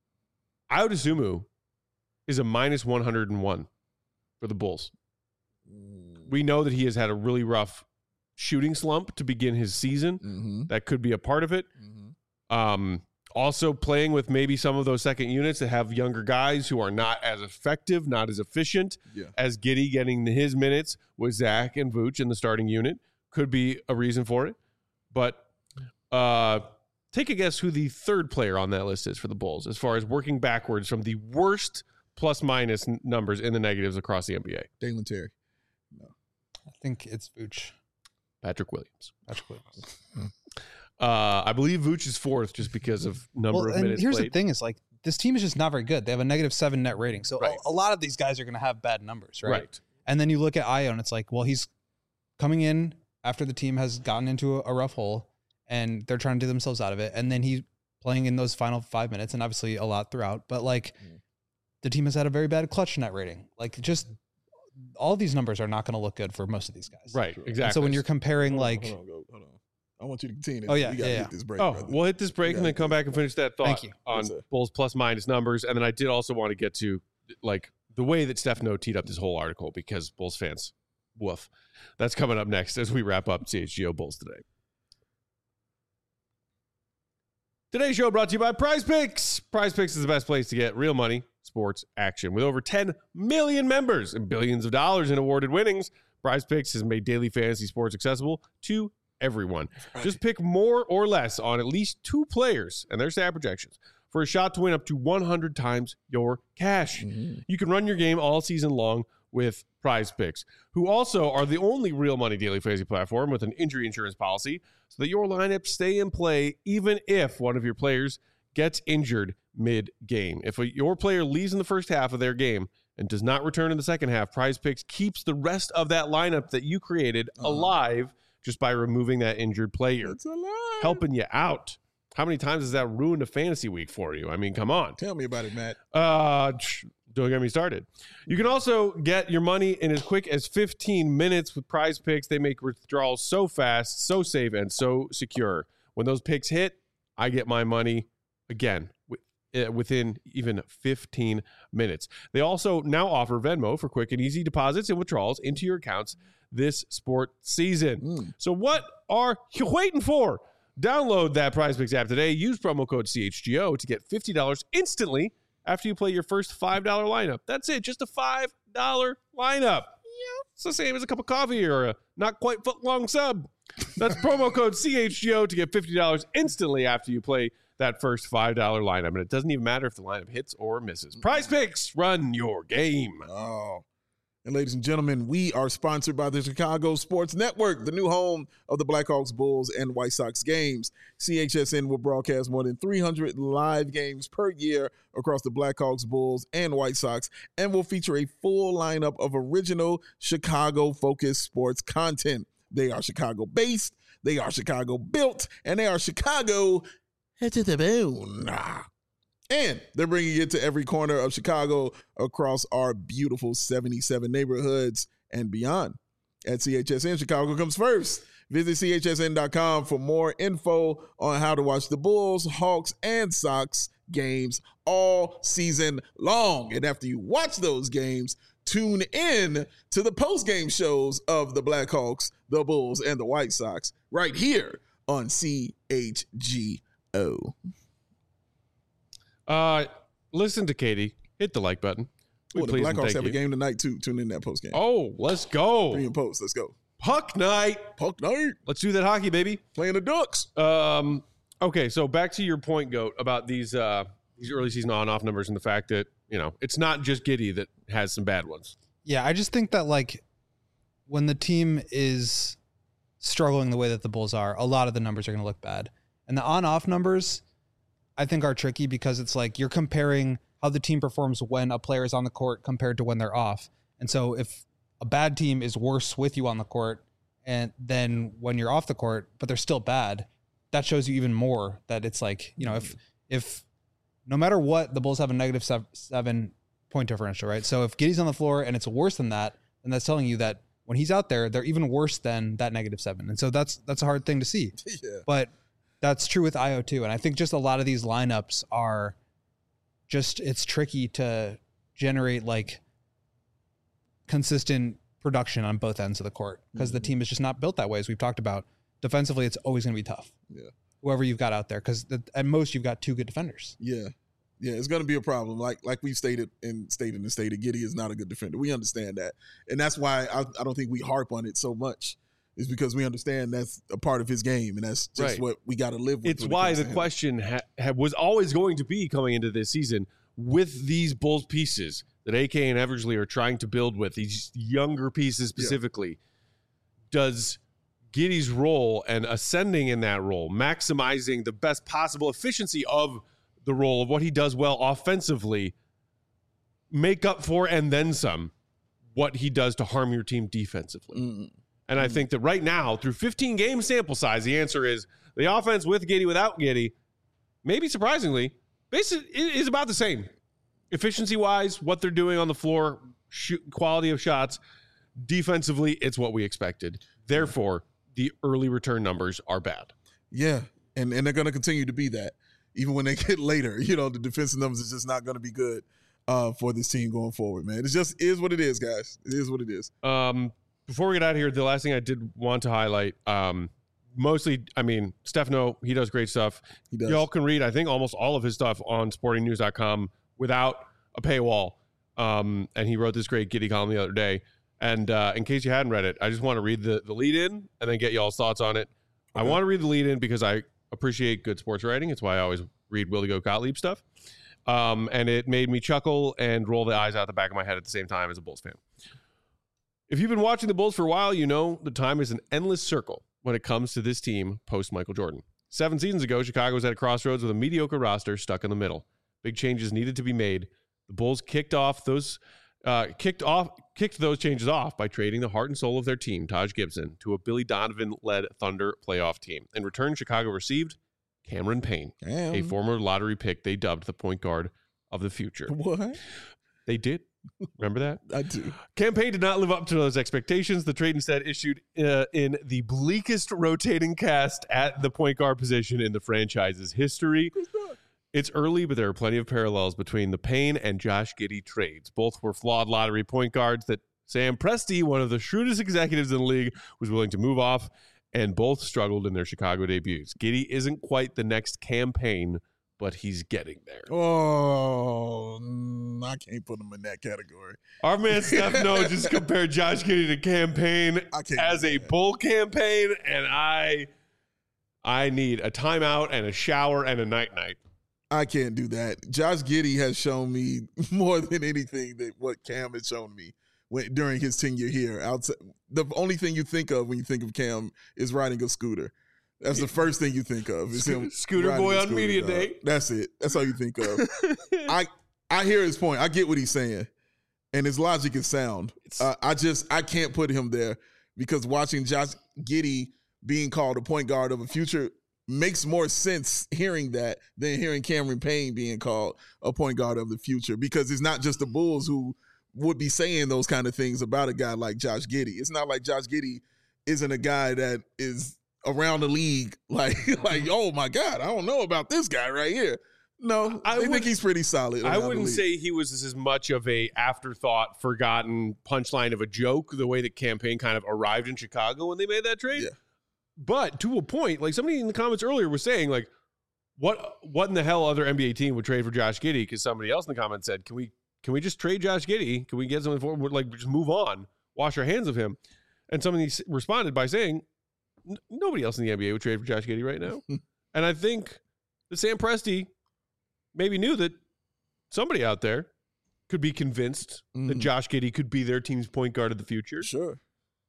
Ayo Dosunmu is a minus one hundred one for the Bulls. We know that he has had a really rough shooting slump to begin his season. Mm-hmm. That could be a part of it. Mm-hmm. Um, also playing with maybe some of those second units that have younger guys who are not as effective, not as efficient Yeah. as Giddey getting his minutes with Zach and Vooch in the starting unit could be a reason for it. But uh, take a guess who the third player on that list is for the Bulls as far as working backwards from the worst plus minus n- numbers in the negatives across the N B A. Dalen Terry. I think it's Vooch. Patrick Williams. Patrick Williams. Uh, I believe Vooch is fourth just because of number Well, of and minutes here's played. the thing: is like this team is just not very good. They have a negative seven net rating, so Right. a, a lot of these guys are going to have bad numbers, right? Right. And then you look at Io, and it's like, well, he's coming in after the team has gotten into a, a rough hole, and they're trying to do themselves out of it, and then he's playing in those final five minutes, and obviously a lot throughout. But like, Mm. the team has had a very bad clutch net rating. Like, just all these numbers are not going to look good for most of these guys. Right. Sure. Exactly. And so when you're comparing, Hold on, like, hold on, go, hold on. I want you to continue. Oh, yeah, we gotta yeah, get yeah. this break. Oh, brother. we'll hit this break and Yeah. then come back and finish that thought Thank you. on Yes, sir. Bulls plus minus numbers. And then I did also want to get to like the way that Steph No teed up this whole article because Bulls fans, woof. That's coming up next as we wrap up C H G O Bulls today. Today's show brought to you by Prize Picks. Prize Picks is the best place to get real money, sports action. With over ten million members and billions of dollars in awarded winnings, Prize Picks has made daily fantasy sports accessible to everyone. Just pick more or less on at least two players and their stat projections for a shot to win up to one hundred times your cash. Mhm. You can run your game all season long with Prize Picks, who also are the only real money daily fantasy platform with an injury insurance policy so that your lineups stay in play even if one of your players gets injured mid-game. If a, your player leaves in the first half of their game and does not return in the second half, Prize Picks keeps the rest of that lineup that you created Uh-huh. alive just by removing that injured player, That's a lie. helping you out. How many times has that ruined a fantasy week for you? I mean, come on. Tell me about it, Matt. Uh, tch, don't get me started. You can also get your money in as quick as fifteen minutes with Prize Picks. They make withdrawals so fast, so safe, and so secure. When those picks hit, I get my money again wi- uh, within even fifteen minutes. They also now offer Venmo for quick and easy deposits and withdrawals into your accounts this sport season. Mm. So what are you waiting for? Download that Prize Picks app today. Use promo code C H G O to get fifty dollars instantly after you play your first five dollar lineup. That's it, just a five dollar lineup. Yeah, it's the same as a cup of coffee or a not quite foot long sub. That's promo code C H G O to get fifty dollars instantly after you play that first five dollar lineup. And it doesn't even matter if the lineup hits or misses. Prize Picks, run your game. Oh. And ladies and gentlemen, we are sponsored by the Chicago Sports Network, the new home of the Blackhawks, Bulls, and White Sox games. C H S N will broadcast more than three hundred live games per year across the Blackhawks, Bulls, and White Sox, and will feature a full lineup of original Chicago-focused sports content. They are Chicago-based, they are Chicago-built, and they are Chicago to the bone. And they're bringing it to every corner of Chicago across our beautiful seventy-seven neighborhoods and beyond. At C H S N, Chicago comes first. Visit C H S N dot com for more info on how to watch the Bulls, Hawks, and Sox games all season long. And after you watch those games, tune in to the post-game shows of the Blackhawks, the Bulls, and the White Sox right here on C H G O. Uh, listen to Katie. Hit the like button. We Oh, the please and Blackhawks thank have a you. game tonight too. Tune in that post game. Oh, let's go. Pre and post. Let's go. Puck night. Puck night. Let's do that hockey, baby. Playing the Ducks. Um, okay, so back to your point, Goat, about these uh these early season on-off numbers and the fact that, you know, it's not just Giddey that has some bad ones. Yeah, I just think that like when the team is struggling the way that the Bulls are, a lot of the numbers are going to look bad. And the on-off numbers, I think, are tricky because it's like you're comparing how the team performs when a player is on the court compared to when they're off. And so if a bad team is worse with you on the court and then when you're off the court, but they're still bad, that shows you even more that it's like, you know, if if no matter what, the Bulls have a negative seven, seven point differential, right? So if Giddey's on the floor and it's worse than that, then that's telling you that when he's out there, they're even worse than that negative seven. And so that's that's a hard thing to see. Yeah. But that's true with I O too. And I think just a lot of these lineups are just, it's tricky to generate like consistent production on both ends of the court because Mhm. the team is just not built that way, as we've talked about. Defensively, it's always going to be tough. Yeah. whoever you've got out there, because at most you've got two good defenders. Yeah. Yeah, it's going to be a problem. Like like we've stated and stated and stated, Giddey is not a good defender. We understand that. And that's why I, I don't think we harp on it so much, is because we understand that's a part of his game, and that's just Right. what we got to live with. It's when it why comes the to him. question ha- ha- was always going to be coming into this season with these Bulls pieces that A K and Eversley are trying to build with, these younger pieces specifically. Does Giddey's role and ascending in that role, maximizing the best possible efficiency of the role of what he does well offensively, make up for and then some what he does to harm your team defensively? Mm. And I think that right now, through fifteen game sample size, the answer is the offense with Giddey, without Giddey, maybe surprisingly, basically is about the same. Efficiency-wise, what they're doing on the floor, shoot, quality of shots, defensively, it's what we expected. Therefore, the early return numbers are bad. Yeah, and, and they're going to continue to be that. Even when they get later, you know, the defensive numbers is just not going to be good uh, for this team going forward, man. It just is what it is, guys. It is what it is. Um, before we get out of here, the last thing I did want to highlight, um, mostly, I mean, Stefano, he does great stuff. He does. Y'all can read, I think, almost all of his stuff on sporting news dot com without a paywall. Um, and he wrote this great Giddey column the other day. And uh, in case you hadn't read it, I just want to read the, the lead in and then get y'all's thoughts on it. I Okay. want to read the lead in because I appreciate good sports writing. It's why I always read Willie Go Gottlieb stuff. Um, and it made me chuckle and roll the eyes out the back of my head at the same time as a Bulls fan. If you've been watching the Bulls for a while, you know the time is an endless circle when it comes to this team post Michael Jordan. Seven seasons ago, Chicago was at a crossroads with a mediocre roster stuck in the middle. Big changes needed to be made. The Bulls kicked off those uh, kicked off kicked those changes off by trading the heart and soul of their team, Taj Gibson, to a Billy Donovan-led Thunder playoff team. In return, Chicago received Cameron Payne, Damn. a former lottery pick they dubbed the point guard of the future. What? They did. Remember that? I do. Campaign did not live up to those expectations. The trade instead issued uh, in the bleakest rotating cast at the point guard position in the franchise's history. It's early, but there are plenty of parallels between the Payne and Josh Giddey trades. Both were flawed lottery point guards that Sam Presti, one of the shrewdest executives in the league, was willing to move off, and both struggled in their Chicago debuts. Giddey isn't quite the next Campaign, but he's getting there. Oh, mm, I can't put him in that category. Our man Stefano just compared Josh Giddey to Campaign I can't as do a that. Bull campaign, and I I need a timeout and a shower and a night-night. I can't do that. Josh Giddey has shown me more than anything that what Cam has shown me when, during his tenure here. Outside, the only thing you think of when you think of Cam is riding a scooter. That's the first thing you think of. Is him Scooter riding boy a on scooter, media dog. day. That's it. That's all you think of. I I hear his point. I get what he's saying, and his logic is sound. Uh, I just I can't put him there because watching Josh Giddey being called a point guard of a future makes more sense hearing that than hearing Cameron Payne being called a point guard of the future, because it's not just the Bulls who would be saying those kind of things about a guy like Josh Giddey. It's not like Josh Giddey isn't a guy that is around the league like like oh my God, I don't know about this guy right here. No, I I think would- he's pretty solid. I around the wouldn't league. say he was as much of a afterthought, forgotten punchline of a joke the way that Campaign kind of arrived in Chicago when they made that trade. Yeah. But to a point, like somebody in the comments earlier was saying, like, what what in the hell other N B A team would trade for Josh Giddey? Because somebody else in the comments said, can we can we just trade Josh Giddey? Can we get something for him? Like, just move on, wash our hands of him? And somebody s- responded by saying, "N- nobody else in the N B A would trade for Josh Giddey right now. And I think that Sam Presti maybe knew that somebody out there could be convinced that Mhm. Josh Giddey could be their team's point guard of the future. Sure.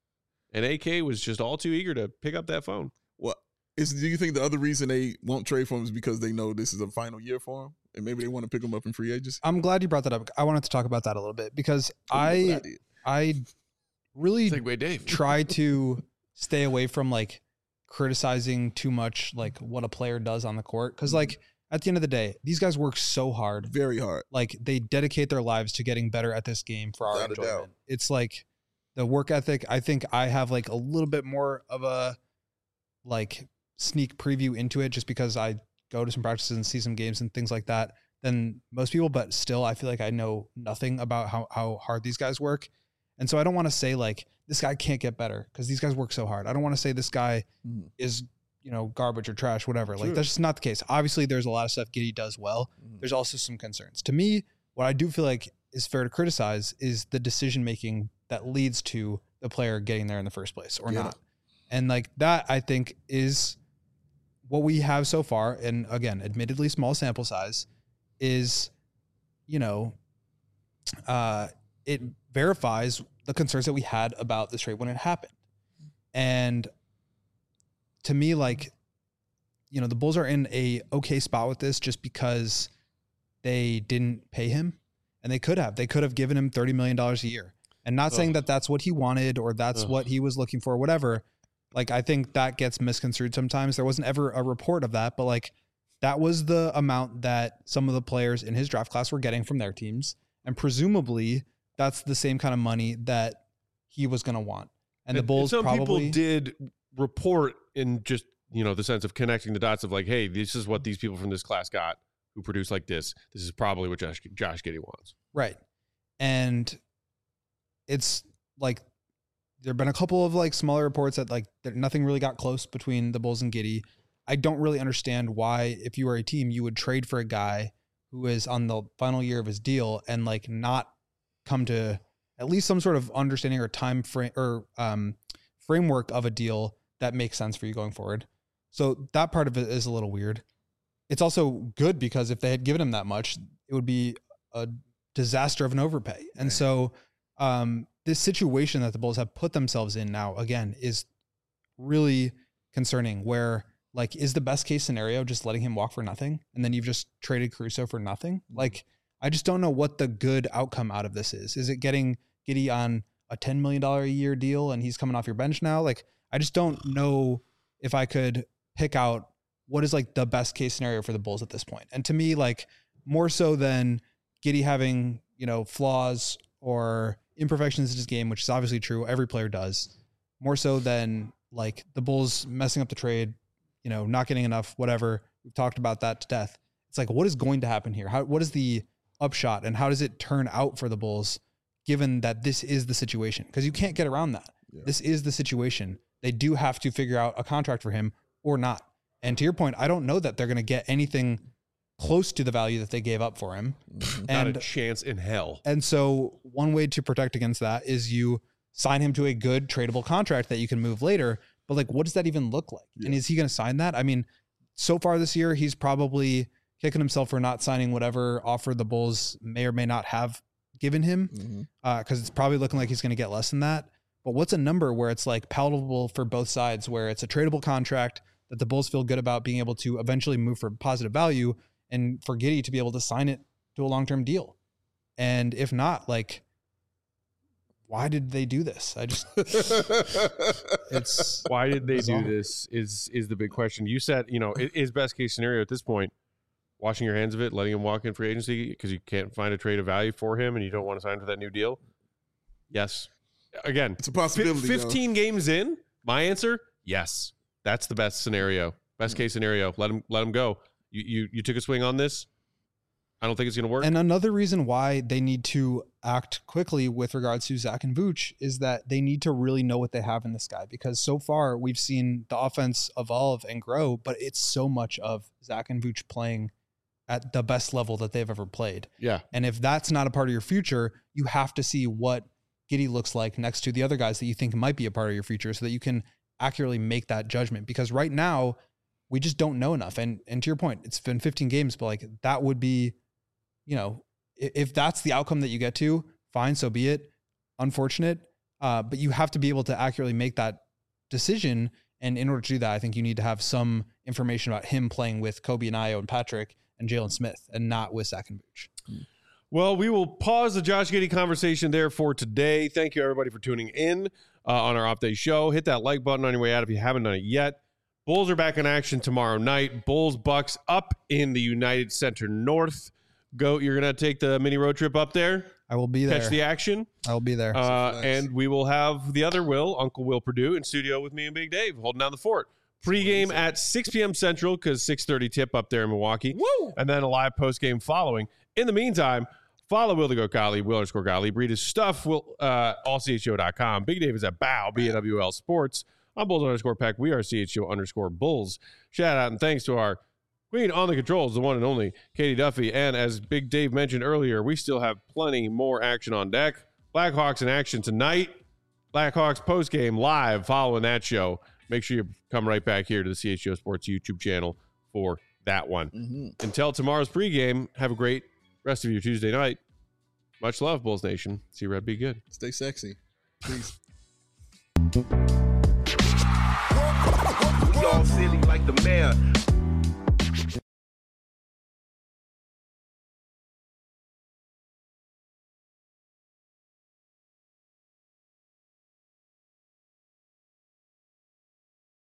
And A K was just all too eager to pick up that phone. What is? Do you think the other reason they won't trade for him is because they know this is a final year for him, and maybe they want to pick him up in free agency? I'm glad you brought that up. I wanted to talk about that a little bit because What I did. I really Segway Dave. try to stay away from like criticizing too much like what a player does on the court, because like at the end of the day, these guys work so hard. Very hard. Like they dedicate their lives to getting better at this game for our Without a doubt. enjoyment. It's like the work ethic. I think I have like a little bit more of a like sneak preview into it just because I go to some practices and see some games and things like that than most people, but still I feel like I know nothing about how, how hard these guys work. And so I don't want to say like this guy can't get better because these guys work so hard. I don't want to say this guy Mhm. is, you know, garbage or trash, whatever. True. Like that's just not the case. Obviously, there's a lot of stuff Giddey does well. Mhm. There's also some concerns. To me, what I do feel like is fair to criticize is the decision making that leads to the player getting there in the first place or Get not. it. And like that, I think is what we have so far. And again, admittedly small sample size is, you know, uh, it verifies the concerns that we had about this trade when it happened. And to me, like, you know, the Bulls are in a okay spot with this just because they didn't pay him, and they could have. They could have given him thirty million dollars a year. And not saying Ugh. that that's what he wanted or that's Ugh. what he was looking for, whatever. Like, I think that gets misconstrued sometimes. There wasn't ever a report of that, but like that was the amount that some of the players in his draft class were getting from their teams. And presumably that's the same kind of money that he was going to want. And the Bulls some probably people did report in just, you know, the sense of connecting the dots of like, hey, this is what these people from this class got who produce like this. This is probably what Josh, Josh Giddey wants. Right. And it's like there have been a couple of like smaller reports that like that nothing really got close between the Bulls and Giddey. I don't really understand why, if you were a team, you would trade for a guy who is on the final year of his deal and like not come to at least some sort of understanding or time frame or um, framework of a deal that makes sense for you going forward. So that part of it is a little weird. It's also good because if they had given him that much, it would be a disaster of an overpay. And Right. so um, this situation that the Bulls have put themselves in now, again, is really concerning, where like, is the best case scenario just letting him walk for nothing? And then you've just traded Caruso for nothing? Like, I just don't know what the good outcome out of this is. Is it getting Giddey on a ten million dollars a year deal and he's coming off your bench now? Like, I just don't know if I could pick out what is like the best case scenario for the Bulls at this point. And to me, like more so than Giddey having, you know, flaws or imperfections in his game, which is obviously true. Every player does. More so than like the Bulls messing up the trade, you know, not getting enough, whatever. We've talked about that to death. It's like, what is going to happen here? How, what is the upshot and how does it turn out for the Bulls, given that this is the situation? Because you can't get around that. Yeah. This is the situation. They do have to figure out a contract for him or not. And to your point, I don't know that they're going to get anything close to the value that they gave up for him. Mhm. Not And a chance in hell. and so one way to protect against that is you sign him to a good tradable contract that you can move later. But like, what does that even look like? Yeah. And is he going to sign that? I mean, so far this year, he's probably kicking himself for not signing whatever offer the Bulls may or may not have given him, Mhm. uh, because it's probably looking like he's going to get less than that. But what's a number where it's like palatable for both sides, where it's a tradable contract that the Bulls feel good about being able to eventually move for positive value, and for Giddey to be able to sign it to a long-term deal? And if not, like, why did they do this? I just, it's Why did they Bizarre. do this is is the big question. You said, you know, i- is best case scenario at this point washing your hands of it, letting him walk in free agency because you can't find a trade of value for him and you don't want to sign for that new deal? Yes. Again, It's a fi- possibility. yo. fifteen games in, my answer, yes. That's the best scenario. Best case scenario. Let him let him go. You you you took a swing on this. I don't think it's going to work. And another reason why they need to act quickly with regards to Zach and Vooch is that they need to really know what they have in this guy, because so far we've seen the offense evolve and grow, but it's so much of Zach and Vooch playing at the best level that they've ever played. yeah. And if that's not a part of your future, you have to see what Giddey looks like next to the other guys that you think might be a part of your future so that you can accurately make that judgment. Because right now we just don't know enough. And and to your point, it's been fifteen games, but like that would be, you know, if, if that's the outcome that you get to, fine, so be it. Unfortunate. Uh, but you have to be able to accurately make that decision. And in order to do that, I think you need to have some information about him playing with Kobe and Ayo and Patrick and Jalen Smith, and not with Zach and Vooch. Well, we will pause the Josh Giddey conversation there for today. Thank you, everybody, for tuning in uh, on our off day show. Hit that like button on your way out if you haven't done it yet. Bulls are back in action tomorrow night. Bulls Bucks up in the United Center North. Goat, you're going to take the mini road trip up there, I will be there. catch the action, I will be there. uh, Nice. and we will have the other Will, Uncle Will Purdue, in studio with me and Big Dave, holding down the fort. Pre-game at six p.m. Central, because six thirty tip up there in Milwaukee. Woo! And then a live post-game following. In the meantime, follow Will the Goat Gottlieb, Will underscore Gottlieb. Read his stuff, Will, uh, all C H O dot com. Big Dave is at B O W, B A W L Sports I'm Bulls underscore Peck. We are C H O underscore Bulls. Shout out and thanks to our queen on the controls, the one and only Katie Duffy. And as Big Dave mentioned earlier, we still have plenty more action on deck. Blackhawks in action tonight. Blackhawks postgame live following that show. Make sure you come right back here to the C H O Sports YouTube channel for that one. Mm-hmm. Until tomorrow's pregame, have a great rest of your Tuesday night. Much love, Bulls Nation. See Red be good. Stay sexy. Peace. Y'all silly like the mayor.